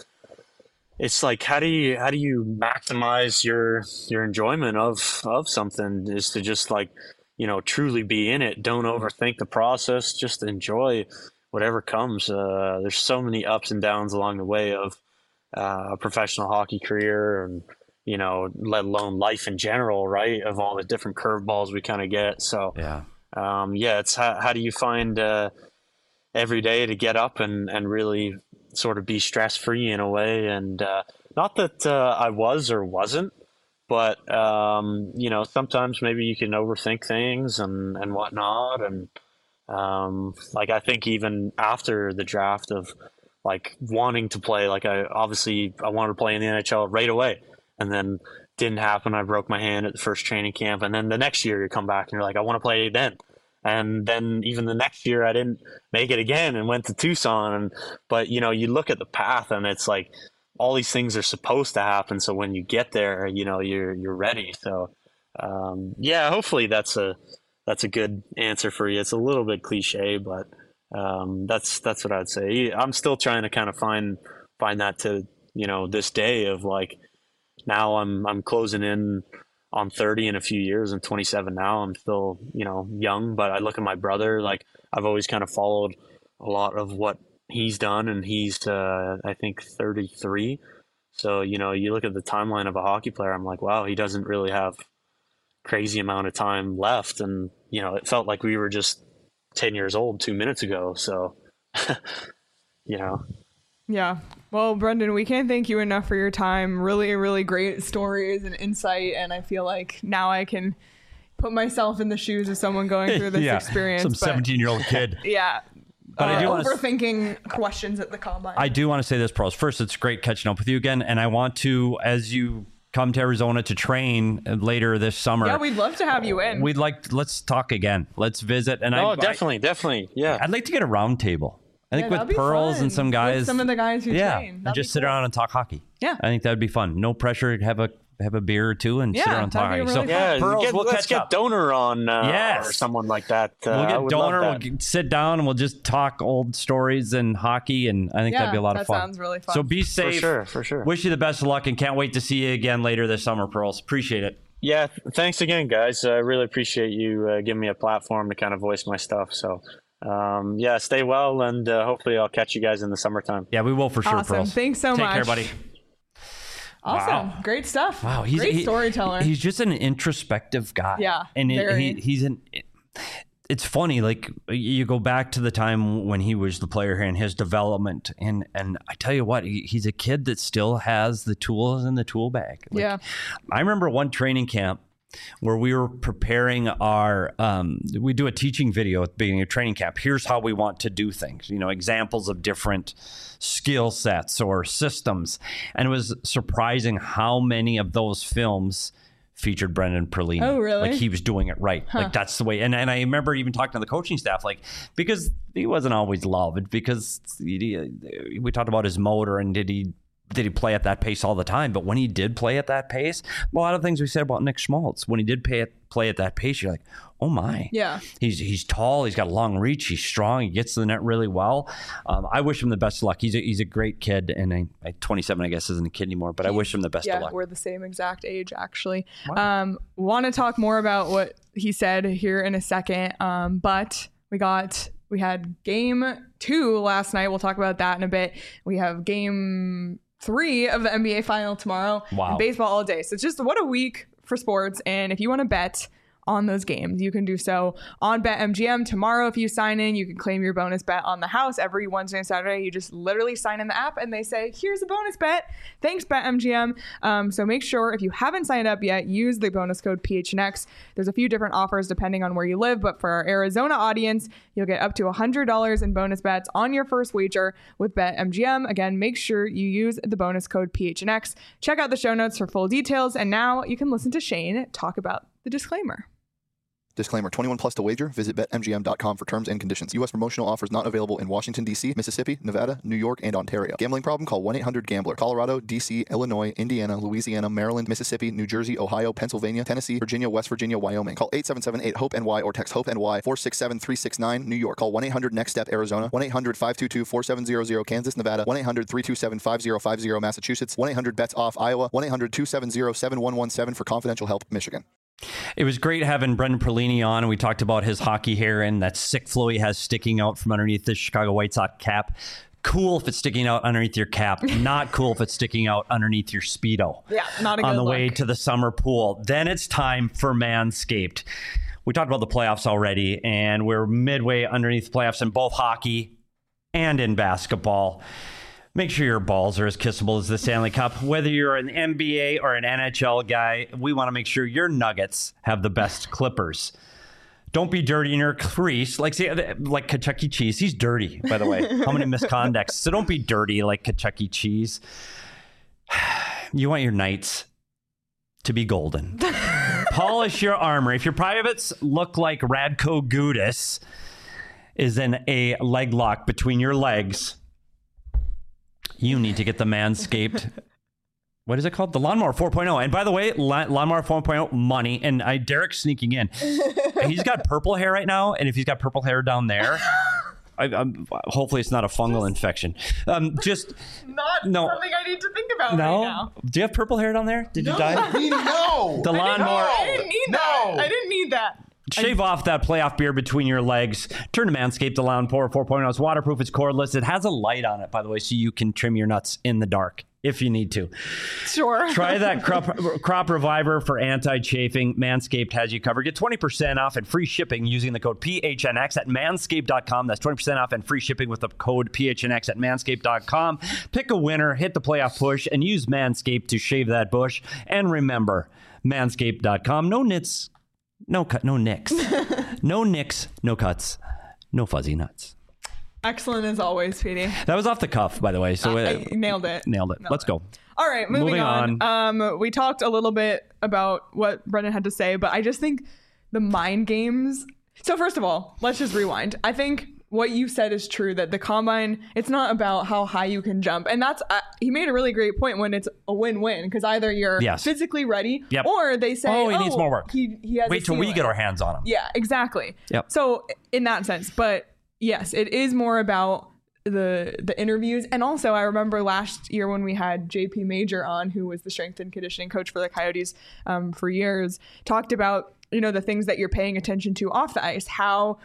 Speaker 2: it's like, how do you maximize your enjoyment of something, is to just like, truly be in it. Don't overthink the process. Just enjoy whatever comes. There's so many ups and downs along the way of a professional hockey career, and, let alone life in general, right? Of all the different curveballs we kind of get. So, it's how do you find every day to get up and really sort of be stress-free in a way. And not that I was or wasn't, but, sometimes maybe you can overthink things and whatnot. And, like, I think even after the draft of like wanting to play, like I wanted to play in the NHL right away, and then didn't happen. I broke my hand at the first training camp. And then the next year you come back and you're like, I want to play then. And then even the next year I didn't make it again and went to Tucson. But, you look at the path, and it's like, all these things are supposed to happen. So when you get there, you're ready. So, hopefully that's a good answer for you. It's a little bit cliche, but, that's what I'd say. I'm still trying to kind of find that to, this day of like, now I'm closing in on 30 in a few years. I'm 27 now. I'm still, young, but I look at my brother, like, I've always kind of followed a lot of what he's done, and he's I think 33. So you look at the timeline of a hockey player, I'm like, wow, he doesn't really have crazy amount of time left. And it felt like we were just 10 years old 2 minutes ago. So
Speaker 1: Yeah. Well, Brendan, we can't thank you enough for your time. Really, really great stories and insight. And I feel like now I can put myself in the shoes of someone going through this experience.
Speaker 3: Some 17-year-old kid.
Speaker 1: Yeah.
Speaker 3: But I do
Speaker 1: overthinking questions at the combine.
Speaker 3: I do want to say this, pros. First, it's great catching up with you again. And I want to, as you come to Arizona to train later this summer.
Speaker 1: Yeah, we'd love to have you in.
Speaker 3: Let's talk again. Let's visit. And
Speaker 2: definitely. Yeah.
Speaker 3: I'd like to get a round table. I think with Pearls and some guys.
Speaker 1: With some of the guys who train.
Speaker 3: And just sit around and talk hockey.
Speaker 1: Yeah.
Speaker 3: I think that would be fun. No pressure. Have a beer or two and sit around and talk hockey.
Speaker 1: Really
Speaker 3: Pearls,
Speaker 2: let's get Donor on or someone like that.
Speaker 3: We'll get Donor. We'll sit down and we'll just talk old stories and hockey, and I think that'd be a lot of fun.
Speaker 1: That sounds really fun.
Speaker 3: So be safe.
Speaker 2: For sure.
Speaker 3: Wish you the best of luck, and can't wait to see you again later this summer, Pearls. Appreciate it.
Speaker 2: Yeah, thanks again, guys. I really appreciate you giving me a platform to kind of voice my stuff. So Stay well, and hopefully I'll catch you guys in the summertime.
Speaker 3: Yeah, we will for sure.
Speaker 1: Awesome.
Speaker 3: Pearls.
Speaker 1: Thanks so much.
Speaker 3: Take care, buddy.
Speaker 1: Awesome.
Speaker 3: Wow.
Speaker 1: Great stuff.
Speaker 3: Wow.
Speaker 1: Great storyteller.
Speaker 3: He's just an introspective guy.
Speaker 1: Yeah.
Speaker 3: And it's funny, like you go back to the time when he was the player here and his development. And I tell you what, he's a kid that still has the tools in the tool bag. Like,
Speaker 1: yeah.
Speaker 3: I remember one training camp where we were preparing our, we do a teaching video at the beginning of training camp. Here's how we want to do things, examples of different skill sets or systems. And it was surprising how many of those films featured Brendan Perlini.
Speaker 1: Oh, really?
Speaker 3: Like he was doing it right. Huh. Like that's the way. And I remember even talking to the coaching staff, like, because he wasn't always loved because we talked about his motor and did he play at that pace all the time? But when he did play at that pace, a lot of things we said about Nick Schmaltz, when he did play at that pace, you're like, oh my.
Speaker 1: Yeah.
Speaker 3: He's tall. He's got a long reach. He's strong. He gets to the net really well. I wish him the best of luck. He's a great kid. And 27, I guess, isn't a kid anymore, but I wish him the best of luck.
Speaker 1: Yeah, we're the same exact age, actually.
Speaker 3: Wow.
Speaker 1: Want to talk more about what he said here in a second. But we had game 2 last night. We'll talk about that in a bit. We have game 3 of the NBA final tomorrow.
Speaker 3: Wow.
Speaker 1: And baseball all day. So it's just what a week for sports. And if you want to bet on those games, you can do so on BetMGM. Tomorrow, if you sign in, you can claim your bonus bet on the house. Every Wednesday and Saturday, you just literally sign in the app and they say, here's a bonus bet. Thanks, BetMGM. So make sure if you haven't signed up yet, use the bonus code PHNX. There's a few different offers depending on where you live, but for our Arizona audience, you'll get up to $100 in bonus bets on your first wager with BetMGM. Again, make sure you use the bonus code PHNX. Check out the show notes for full details. And now you can listen to Shane talk about the disclaimer.
Speaker 4: Disclaimer, 21 plus to wager. Visit BetMGM.com for terms and conditions. U.S. promotional offers not available in Washington, D.C., Mississippi, Nevada, New York, and Ontario. Gambling problem? Call 1-800-GAMBLER. Colorado, D.C., Illinois, Indiana, Louisiana, Maryland, Mississippi, New Jersey, Ohio, Pennsylvania, Tennessee, Virginia, West Virginia, Wyoming. Call 877-8-HOPE-NY or text HOPE-NY 467-369, New York. Call 1-800-NEXT-STEP, Arizona. 1-800-522-4700, Kansas, Nevada. 1-800-327-5050, Massachusetts. 1-800-BETS-OFF, Iowa. 1-800-270-7117 for confidential help, Michigan.
Speaker 3: It was great having Brendan Perlini on, and we talked about his hockey hair and that sick flow he has sticking out from underneath the Chicago White Sox cap. Cool if it's sticking out underneath your cap. Not cool if it's sticking out underneath your Speedo.
Speaker 1: Yeah, not a good
Speaker 3: on the
Speaker 1: look.
Speaker 3: way to the summer pool. Then it's time for Manscaped. We talked about the playoffs already, and we're midway underneath the playoffs in both hockey and in basketball. Make sure your balls are as kissable as the Stanley Cup. Whether you're an NBA or an NHL guy, we want to make sure your nuggets have the best clippers. Don't be dirty in your crease. Like Kentucky Cheese. He's dirty, by the way. How many misconducts? So don't be dirty like Kentucky Cheese. You want your nights to be golden. Polish your armor. If your privates look like Radko Gudas is in a leg lock between your legs, you need to get the Manscaped. What is it called? The Lawnmower 4.0. And by the way, Lawnmower 4.0 money. And Derek's sneaking in. He's got purple hair right now. And if he's got purple hair down there, hopefully it's not a fungal infection. Just
Speaker 1: not something I need to think about right now.
Speaker 3: Do you have purple hair down there? Did you die?
Speaker 4: No.
Speaker 3: The Lawnmower.
Speaker 1: I didn't need that. I didn't need that.
Speaker 3: Shave off that playoff beard between your legs. Turn to Manscaped, the Lawnmower 4.0. It's waterproof. It's cordless. It has a light on it, by the way, so you can trim your nuts in the dark if you need to.
Speaker 1: Sure.
Speaker 3: Try that crop reviver for anti-chafing. Manscaped has you covered. Get 20% off and free shipping using the code PHNX at manscaped.com. That's 20% off and free shipping with the code PHNX at manscaped.com. Pick a winner, hit the playoff push, and use Manscaped to shave that bush. And remember, manscaped.com. No nits. No nicks. No nicks, no cuts, no fuzzy nuts.
Speaker 1: Excellent as always, Petey.
Speaker 3: That was off the cuff, by the way. So
Speaker 1: I nailed it.
Speaker 3: Nailed it. Let's go.
Speaker 1: All right, moving on. We talked a little bit about what Brendan had to say, but I just think the mind games. So first of all, let's just rewind. I think what you said is true, that the combine, it's not about how high you can jump. And that's, he made a really great point when it's a win-win, because either you're physically ready or they say,
Speaker 3: he needs more work.
Speaker 1: He has
Speaker 3: Wait till we get our hands on him.
Speaker 1: Yeah, exactly.
Speaker 3: Yep.
Speaker 1: So in that sense, but yes, it is more about the interviews. And also I remember last year when we had JP Major on, who was the strength and conditioning coach for the Coyotes for years, talked about, the things that you're paying attention to off the ice, how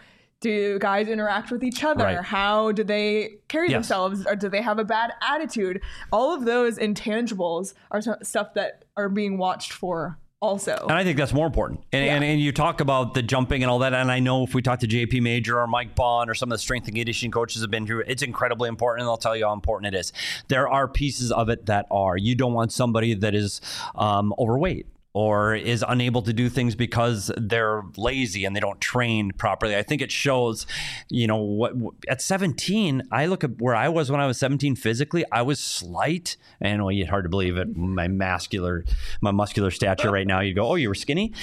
Speaker 1: Do guys interact with each other?
Speaker 3: Right.
Speaker 1: How do they carry themselves? Or do they have a bad attitude? All of those intangibles are stuff that are being watched for also.
Speaker 3: And I think that's more important. And you talk about the jumping and all that. And I know if we talk to JP Major or Mike Bond or some of the strength and conditioning coaches have been through, it's incredibly important. And they'll tell you how important it is. There are pieces of it that are. You don't want somebody that is overweight or is unable to do things because they're lazy and they don't train properly. I think it shows, what at 17, I look at where I was when I was 17 physically, I was slight. And it's hard to believe it. My muscular stature right now, you go, oh, you were skinny.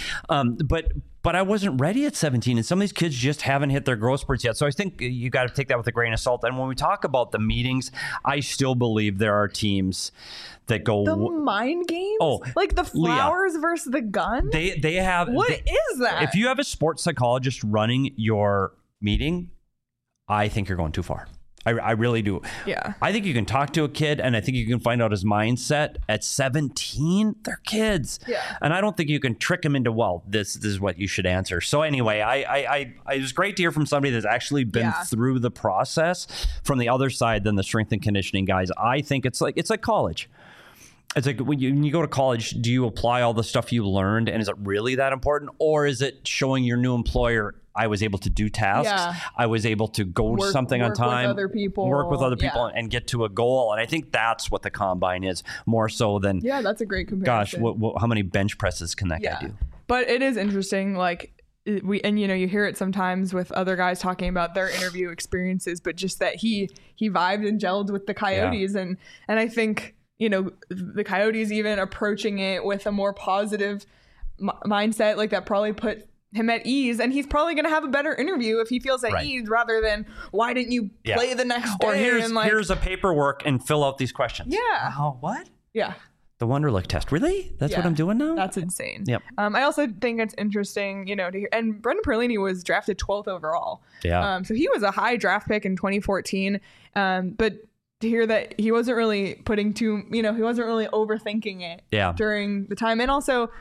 Speaker 3: But I wasn't ready at 17, and some of these kids just haven't hit their growth spurts yet. So I think you got to take that with a grain of salt. And when we talk about the meetings, I still believe there are teams that go
Speaker 1: the mind games, like the flowers versus the gun.
Speaker 3: They have.
Speaker 1: What is that?
Speaker 3: If you have a sports psychologist running your meeting, I think you're going too far. I really do.
Speaker 1: Yeah.
Speaker 3: I think you can talk to a kid, and I think you can find out his mindset at 17. They're kids.
Speaker 1: Yeah.
Speaker 3: And I don't think you can trick them into, well, this is what you should answer. So anyway, it was great to hear from somebody that's actually been through the process from the other side than the strength and conditioning guys. I think it's like college. It's like when you go to college, do you apply all the stuff you learned, and is it really that important? Or is it showing your new employer, I was able to do tasks, I was able to go to something on time,
Speaker 1: work with other people
Speaker 3: and get to a goal? And I think that's what the combine is, more so than,
Speaker 1: that's a great comparison.
Speaker 3: Gosh, how many bench presses can that guy do?
Speaker 1: But it is interesting, like, you hear it sometimes with other guys talking about their interview experiences, but just that he vibed and gelled with the Coyotes. And I think, the Coyotes even approaching it with a more positive mindset, like that probably put him at ease, and he's probably going to have a better interview if he feels at ease rather than, why didn't you play the next day?
Speaker 3: Or here's a paperwork and fill out these questions.
Speaker 1: Yeah.
Speaker 3: What?
Speaker 1: Yeah.
Speaker 3: The Wonderlic test. Really? That's what I'm doing now?
Speaker 1: That's insane.
Speaker 3: Yep.
Speaker 1: I also think it's interesting, to hear, and Brendan Perlini was drafted 12th overall.
Speaker 3: Yeah.
Speaker 1: So he was a high draft pick in 2014. But to hear that he wasn't really he wasn't really overthinking it during the time. And also,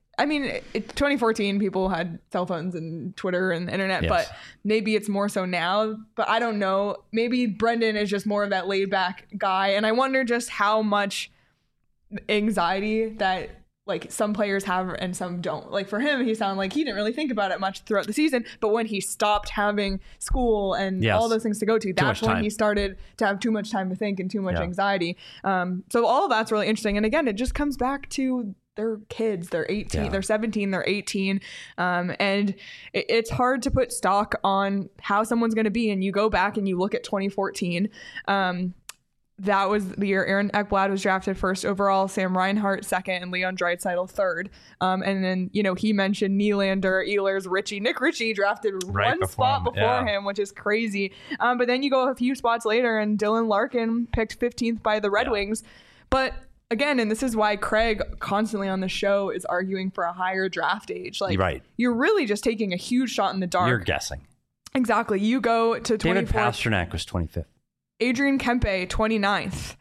Speaker 1: 2014, people had cell phones and Twitter and the internet, but maybe it's more so now. But I don't know. Maybe Brendan is just more of that laid back guy. And I wonder just how much anxiety that like some players have and some don't. Like for him, he sounded like he didn't really think about it much throughout the season, but when he stopped having school and all those things to go to, that's when he started to have too much time to think and too much anxiety. So all of that's really interesting. And again, it just comes back to they're kids. They're 18, they're 17, they're 18. And it's hard to put stock on how someone's going to be. And you go back and you look at 2014, that was the year Aaron Ekblad was drafted first overall, Sam Reinhart second, and Leon Draisaitl third. And then, he mentioned Nylander, Ehlers, Ritchie. Nick Ritchie drafted one spot before him, which is crazy. But then you go a few spots later, and Dylan Larkin picked 15th by the Red Wings. But again, and this is why Craig constantly on the show is arguing for a higher draft age. Like, you're really just taking a huge shot in the dark.
Speaker 3: You're guessing.
Speaker 1: Exactly. You go to 24th.
Speaker 3: David Pastrnak was 25th.
Speaker 1: Adrian Kempe, 29th.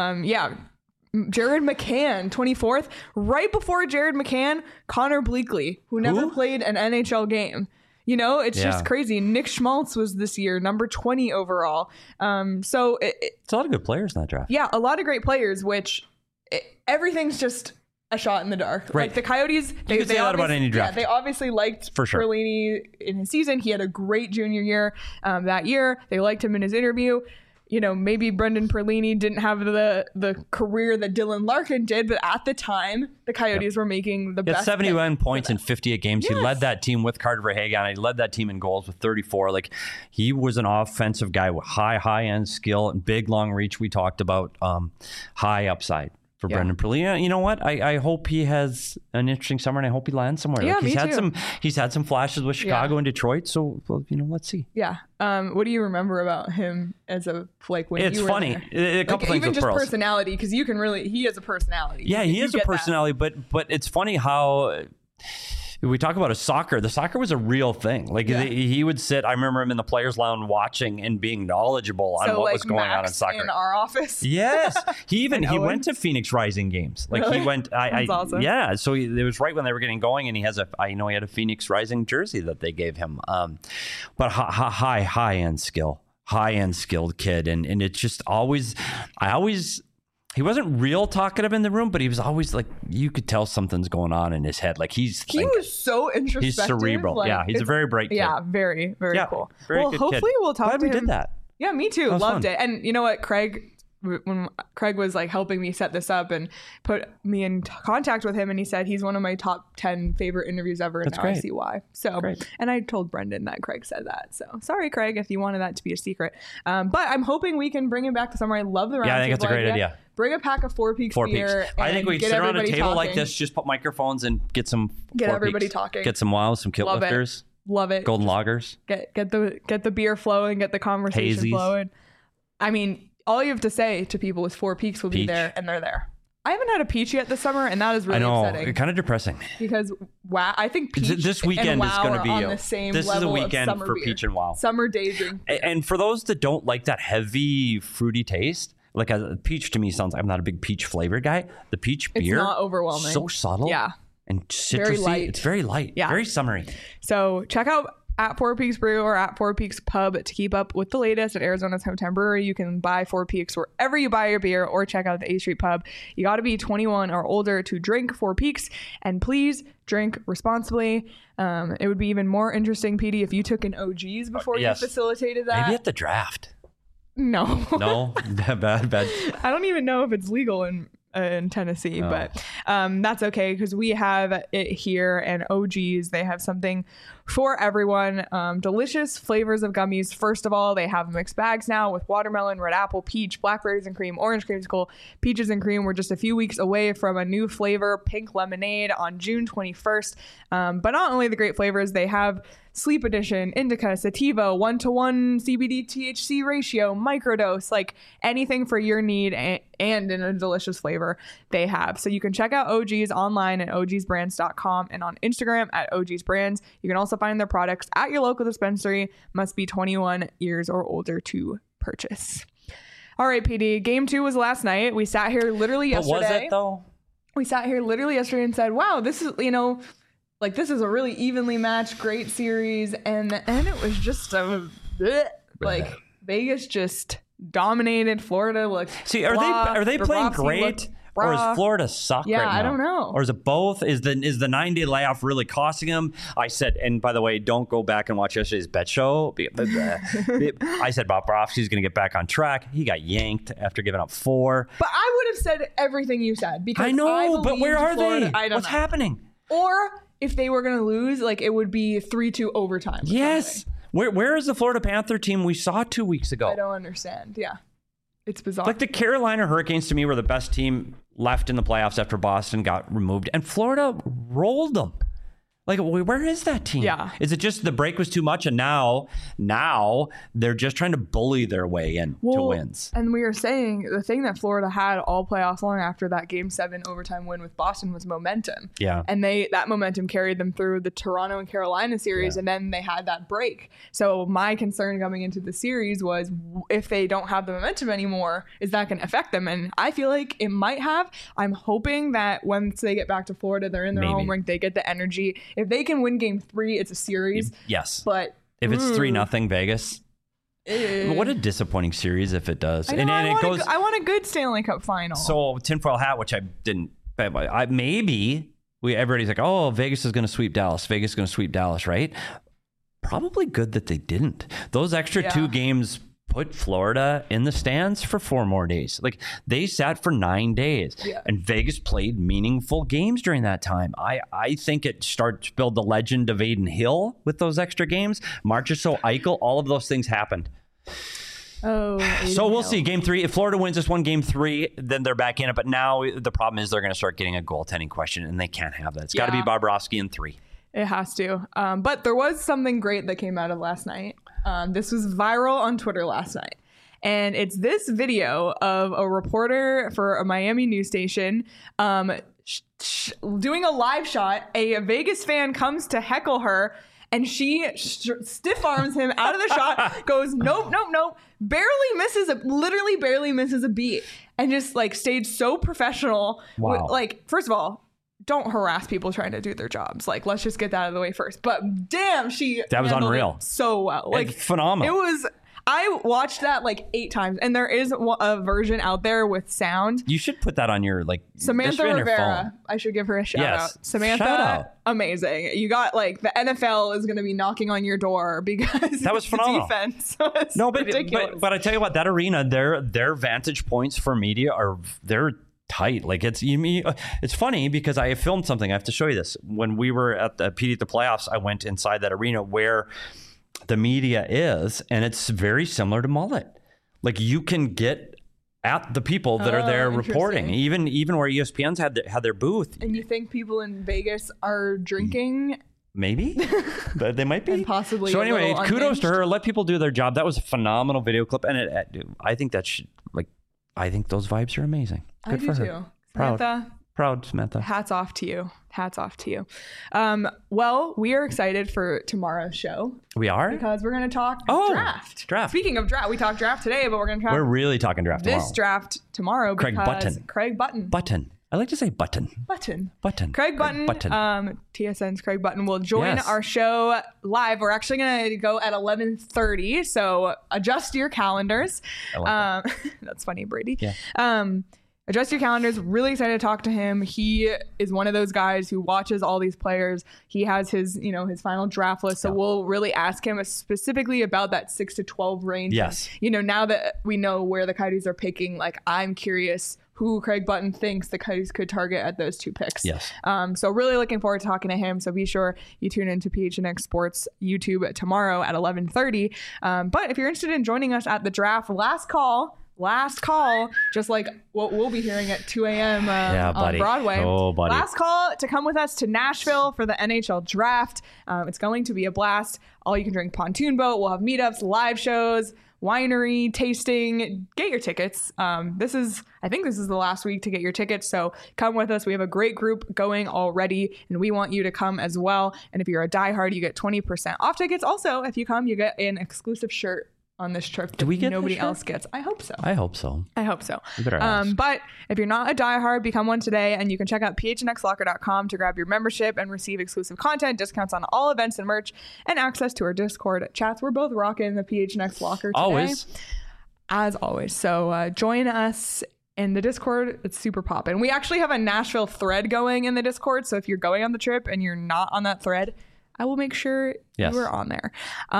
Speaker 1: Jared McCann, 24th. Right before Jared McCann, Connor Bleakley, who never played an NHL game. It's just crazy. Nick Schmaltz was this year, number 20 overall. So it's
Speaker 3: a lot of good players in that draft.
Speaker 1: Yeah, a lot of great players, which everything's just a shot in the dark.
Speaker 3: Right.
Speaker 1: Like the Coyotes,
Speaker 3: they say that about any draft.
Speaker 1: Yeah, they obviously liked Perlini in his season. He had a great junior year that year. They liked him in his interview. Maybe Brendan Perlini didn't have the career that Dylan Larkin did, but at the time, the Coyotes were making the best.
Speaker 3: 71 points in 58 games. Yes. He led that team with Carter Verhaeghe. He led that team in goals with 34. Like, he was an offensive guy with high-end skill and big, long reach. We talked about high upside for Brendan Perlini. You know what? I hope he has an interesting summer, and I hope he lands somewhere.
Speaker 1: Yeah,
Speaker 3: he's had some flashes with Chicago and Detroit. So, let's see.
Speaker 1: Yeah. What do you remember about him as when
Speaker 3: it's
Speaker 1: you were
Speaker 3: funny.
Speaker 1: There?
Speaker 3: A couple things
Speaker 1: even
Speaker 3: with
Speaker 1: just
Speaker 3: Pearls.
Speaker 1: Personality, because you can really, he has a personality.
Speaker 3: Yeah, he has a personality, but it's funny how we talk about soccer. The soccer was a real thing. Like he would sit. I remember him in the players' lounge watching and being knowledgeable on what was going on in soccer.
Speaker 1: In our office.
Speaker 3: Yes, he went to Phoenix Rising games. Like
Speaker 1: really?
Speaker 3: He went.
Speaker 1: That's awesome.
Speaker 3: Yeah. So it was right when they were getting going, and he has I know he had a Phoenix Rising jersey that they gave him. But high end skill, high end skilled kid, and it's just always. He wasn't real talkative in the room, but he was always like, you could tell something's going on in his head. Like he
Speaker 1: was so introspective.
Speaker 3: He's cerebral. Like, he's a very bright kid.
Speaker 1: Yeah, very, very cool.
Speaker 3: Very
Speaker 1: well,
Speaker 3: good
Speaker 1: hopefully
Speaker 3: kid.
Speaker 1: we'll talk
Speaker 3: Glad
Speaker 1: to
Speaker 3: we
Speaker 1: him.
Speaker 3: did that.
Speaker 1: Yeah, me too. Loved
Speaker 3: fun.
Speaker 1: it. And you know what, when Craig was like helping me set this up and put me in contact with him, and he said he's one of my top 10 favorite interviews ever, and now I see why. So, and I told Brendan that Craig said that. So sorry, Craig, if you wanted that to be a secret. But I'm hoping we can bring him back to summer. I love the round.
Speaker 3: Yeah, I think that's a great idea.
Speaker 1: Bring a pack of Four Peaks beer.
Speaker 3: I think we sit around a table
Speaker 1: talking.
Speaker 3: like this, just put microphones and get
Speaker 1: everybody talking.
Speaker 3: Get some wows, some kilt lifters.
Speaker 1: Love it.
Speaker 3: Golden lagers.
Speaker 1: Get the beer flowing, get the conversation
Speaker 3: Hazies.
Speaker 1: flowing. I mean, all you have to say to people is Four Peaks will be there, and they're there. I haven't had a peach yet this summer, and that is really upsetting.
Speaker 3: Kind of depressing.
Speaker 1: Because wow, I think peach
Speaker 3: this weekend
Speaker 1: and wow
Speaker 3: is going to be
Speaker 1: on the same
Speaker 3: this
Speaker 1: level
Speaker 3: is a weekend
Speaker 1: of summer
Speaker 3: for
Speaker 1: beer.
Speaker 3: peach and wow.
Speaker 1: Summer day drink.
Speaker 3: And for those that don't like that heavy fruity taste, like a peach to me sounds. I'm not a big peach flavored guy. The peach beer,
Speaker 1: it's not overwhelming.
Speaker 3: So subtle.
Speaker 1: Yeah.
Speaker 3: And citrusy.
Speaker 1: Very light.
Speaker 3: It's very light.
Speaker 1: Yeah.
Speaker 3: Very summery.
Speaker 1: So check out at Four Peaks Brew or at Four Peaks Pub to keep up with the latest at Arizona's hometown brewery. You can buy Four Peaks wherever you buy your beer, or check out the A Street Pub. You got to be 21 or older to drink Four Peaks, and please drink responsibly. It would be even more interesting, PD, if you took an OGs before you facilitated that.
Speaker 3: Maybe at the draft.
Speaker 1: No.
Speaker 3: Bad.
Speaker 1: I don't even know if it's legal in Tennessee, but that's okay because we have it here. And OGs, they have something for everyone. Delicious flavors of gummies. First of all, they have mixed bags now with watermelon, red apple, peach, blackberries and cream, orange creamsicle, peaches and cream. We're just a few weeks away from a new flavor, pink lemonade, on June 21st. But not only the great flavors, they have Sleep Edition, Indica, Sativa, 1-to-1 CBD THC ratio, microdose, like anything for your need and in a delicious flavor they have. So you can check out OGs online at ogsbrands.com and on Instagram at ogsbrands. You can also find their products at your local dispensary. Must be 21 years or older to purchase. All right, PD, game 2 was last night. We sat here literally yesterday.
Speaker 3: But was it though?
Speaker 1: We sat here literally yesterday and said, wow, this is, like this is a really evenly matched, great series, and it was just like Vegas just dominated. Florida looked.
Speaker 3: See, are they playing great, or is Florida suck right now?
Speaker 1: I don't know.
Speaker 3: Or is it both? Is the 9-day layoff really costing them? I said, and by the way, don't go back and watch yesterday's bet show. I said Bob Borofsky's going to get back on track. He got yanked after giving up 4.
Speaker 1: But I would have said everything you said because
Speaker 3: I know, but where are
Speaker 1: Florida.
Speaker 3: they? What's happening?
Speaker 1: Or if they were going to lose, like it would be 3-2 overtime.
Speaker 3: Yes. Where is the Florida Panther team we saw 2 weeks ago?
Speaker 1: I don't understand. Yeah. It's bizarre.
Speaker 3: Like the Carolina Hurricanes to me were the best team left in the playoffs after Boston got removed, and Florida rolled them. Like, where is that team?
Speaker 1: Yeah.
Speaker 3: Is it just the break was too much, and now they're just trying to bully their way in to wins?
Speaker 1: And we were saying the thing that Florida had all playoffs long after that Game 7 overtime win with Boston was momentum.
Speaker 3: Yeah.
Speaker 1: And that momentum carried them through the Toronto and Carolina series, and then they had that break. So my concern coming into the series was if they don't have the momentum anymore, is that going to affect them? And I feel like it might have. I'm hoping that once they get back to Florida, they're in their home rink, they get the energy. If they can win Game 3, it's a series.
Speaker 3: Yes.
Speaker 1: But
Speaker 3: if it's 3-0 Vegas, what a disappointing series if it does.
Speaker 1: I want a good Stanley Cup final.
Speaker 3: So tinfoil hat, which I didn't. Everybody's like, oh, Vegas is going to sweep Dallas. Vegas is going to sweep Dallas, right? Probably good that they didn't. Those extra 2 games put Florida in the stands for 4 more days. Like they sat for 9 days, and Vegas played meaningful games during that time. I think it starts to build the legend of Aiden Hill with those extra games. Marchessault, Eichel, all of those things happened.
Speaker 1: Oh,
Speaker 3: so we'll see. Game 3. If Florida wins this one, Game 3, then they're back in it. But now the problem is they're going to start getting a goaltending question, and they can't have that. It's got to be Bobrovsky in 3.
Speaker 1: It has to. But there was something great that came out of last night. This was viral on Twitter last night. And it's this video of a reporter for a Miami news station doing a live shot. A Vegas fan comes to heckle her, and she stiff arms him out of the shot, goes, nope, literally barely misses a beat, and just like stayed so professional.
Speaker 3: Wow.
Speaker 1: Like, first of all, don't harass people trying to do their jobs. Like, let's just get that out of the way first. But damn, that was unreal. So well. Like,
Speaker 3: it's phenomenal.
Speaker 1: It was. I watched that like 8 times, and there is a version out there with sound.
Speaker 3: You should put that on your
Speaker 1: Samantha Rivera. I should give her a shout out. Samantha,
Speaker 3: shout out.
Speaker 1: Amazing. You got like the NFL is going to be knocking on your door because
Speaker 3: that was phenomenal.
Speaker 1: Defense. So
Speaker 3: ridiculous. But I tell you what, that arena, their vantage points for media they're tight. Like it's funny because I filmed something. I have to show you this. When we were at the PD at the playoffs, I went inside that arena where the media is, and it's very similar to Mullet. Like, you can get at the people that are there reporting, even where ESPN's had their booth.
Speaker 1: And you think people in Vegas are drinking?
Speaker 3: Maybe they might be,
Speaker 1: and possibly.
Speaker 3: So anyway, kudos to her. Let people do their job. That was a phenomenal video clip, and I think I think those vibes are amazing. Good for her.
Speaker 1: Too. Samantha.
Speaker 3: Proud, Samantha.
Speaker 1: Hats off to you. Well, we are excited for tomorrow's show.
Speaker 3: We are?
Speaker 1: Because we're going to talk draft. Speaking of draft, we talked draft today, but we're going to talk.
Speaker 3: We're really talking draft tomorrow.
Speaker 1: This draft tomorrow.
Speaker 3: Craig Button.
Speaker 1: Button.
Speaker 3: I like to say Button. Craig Button.
Speaker 1: TSN's Craig Button will join our show live. We're actually going to go at 11:30, so adjust your calendars.
Speaker 3: I like that.
Speaker 1: That's funny, Brady.
Speaker 3: Yeah.
Speaker 1: Adjust your calendars. Really excited to talk to him. He is one of those guys who watches all these players. He has his final draft list. So we'll really ask him specifically about that 6 to 12 range.
Speaker 3: Yes.
Speaker 1: And, now that we know where the Coyotes are picking, like, I'm curious who Craig Button thinks the Coyotes could target at those 2 picks.
Speaker 3: Yes.
Speaker 1: So really looking forward to talking to him. So be sure you tune into PHNX Sports YouTube tomorrow at 11:30. But if you're interested in joining us at the draft, last call, just like what we'll be hearing at 2 a.m. On Broadway.
Speaker 3: Oh, buddy.
Speaker 1: Last call to come with us to Nashville for the NHL draft. It's going to be a blast. All you can drink pontoon boat. We'll have meetups, live shows, winery, tasting. Get your tickets. I think this is the last week to get your tickets. So come with us. We have a great group going already, and we want you to come as well. And if you're a diehard, you get 20% off tickets. Also, if you come, you get an exclusive shirt on this trip.
Speaker 3: Do we get
Speaker 1: nobody else gets? I hope so.
Speaker 3: You better ask.
Speaker 1: But if you're not a diehard, become one today, and you can check out phnxlocker.com to grab your membership and receive exclusive content, discounts on all events and merch, and access to our Discord chats. We're both rocking the PHNX Locker today. As always. So join us in the Discord. It's super poppin'. We actually have a Nashville thread going in the Discord, so if you're going on the trip and you're not on that thread, I will make sure you are on there.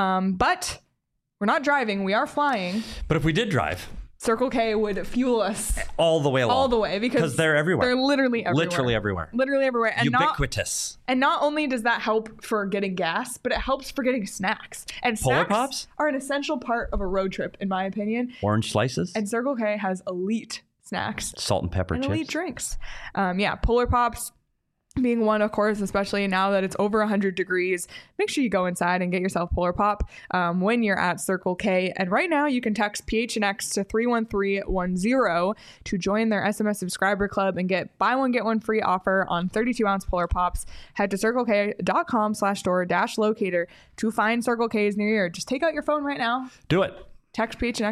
Speaker 1: But we're not driving. We are flying.
Speaker 3: But if we did drive,
Speaker 1: Circle K would fuel us
Speaker 3: all the way along.
Speaker 1: All the way, because
Speaker 3: they're everywhere.
Speaker 1: They're literally everywhere. Literally everywhere. And
Speaker 3: ubiquitous.
Speaker 1: Not only does that help for getting gas, but it helps for getting snacks. And
Speaker 3: Polar
Speaker 1: snacks
Speaker 3: Pops
Speaker 1: are an essential part of a road trip, in my opinion.
Speaker 3: Orange slices.
Speaker 1: And Circle K has elite snacks.
Speaker 3: Salt and pepper chips.
Speaker 1: Elite drinks. Polar Pops being one, of course, especially now that it's over 100 degrees. Make sure you go inside and get yourself Polar Pop when you're at Circle K. And right now you can text PHNX to 31310 to join their SMS subscriber club and get buy one, get one free offer on 32-ounce Polar Pops. Head to circlek.com/store-locator to find Circle K's near you. Just take out your phone right now.
Speaker 3: Do it.
Speaker 1: Text PHNX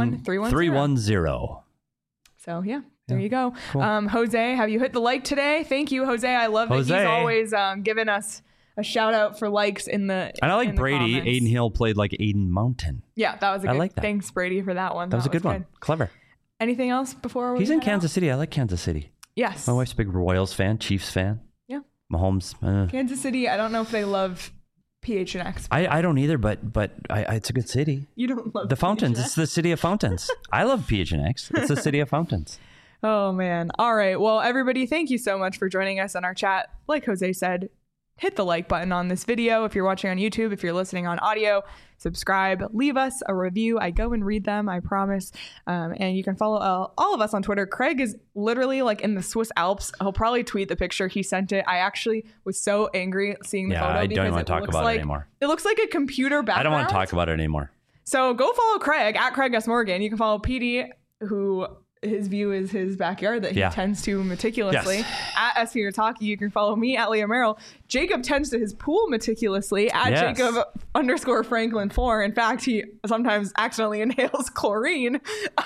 Speaker 1: 31310. So yeah. There you go.
Speaker 3: Cool.
Speaker 1: Jose, have you hit the like today? Thank you, Jose. I love that he's always giving us a shout out for likes in the
Speaker 3: And I like Brady.
Speaker 1: Comments.
Speaker 3: Aiden Hill played like Aiden Mountain.
Speaker 1: Yeah, that was a good.
Speaker 3: I like that.
Speaker 1: Thanks, Brady, for that one.
Speaker 3: That was a good one. Clever.
Speaker 1: Anything else before we
Speaker 3: He's in Kansas City. I like Kansas City.
Speaker 1: Yes.
Speaker 3: My wife's a big Royals fan, Chiefs fan.
Speaker 1: Yeah.
Speaker 3: Mahomes.
Speaker 1: Kansas City, I don't know if they love PHNX.
Speaker 3: I don't either, but it's a good city.
Speaker 1: You don't love
Speaker 3: the fountains.
Speaker 1: PHNX?
Speaker 3: It's the city of fountains. I love PHNX. It's the city of fountains.
Speaker 1: Oh, man. All right. Well, everybody, thank you so much for joining us on our chat. Like Jose said, hit the like button on this video. If you're watching on YouTube, if you're listening on audio, subscribe, leave us a review. I go and read them, I promise. And you can follow all of us on Twitter. Craig is literally like in the Swiss Alps. He'll probably tweet the picture. He sent it. I actually was so angry seeing the photo.
Speaker 3: I don't want to talk about it anymore.
Speaker 1: It looks like a computer background.
Speaker 3: I don't want to talk about it anymore.
Speaker 1: So go follow Craig at Craig S. Morgan. You can follow PD, who his view is his backyard that he tends to meticulously.
Speaker 3: Yes.
Speaker 1: At SP Talkie, you can follow me at Leah Merrill. Jacob tends to his pool meticulously at Jacob_Franklin4. In fact, he sometimes accidentally inhales chlorine.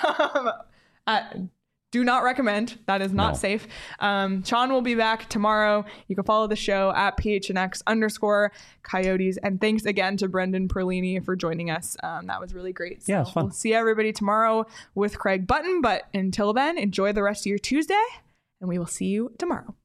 Speaker 1: Do not recommend. That is not safe. Sean will be back tomorrow. You can follow the show at PHNX_Coyotes. And thanks again to Brendan Perlini for joining us. That was really great. So
Speaker 3: yeah, it was fun.
Speaker 1: We'll see everybody tomorrow with Craig Button. But until then, enjoy the rest of your Tuesday, and we will see you tomorrow.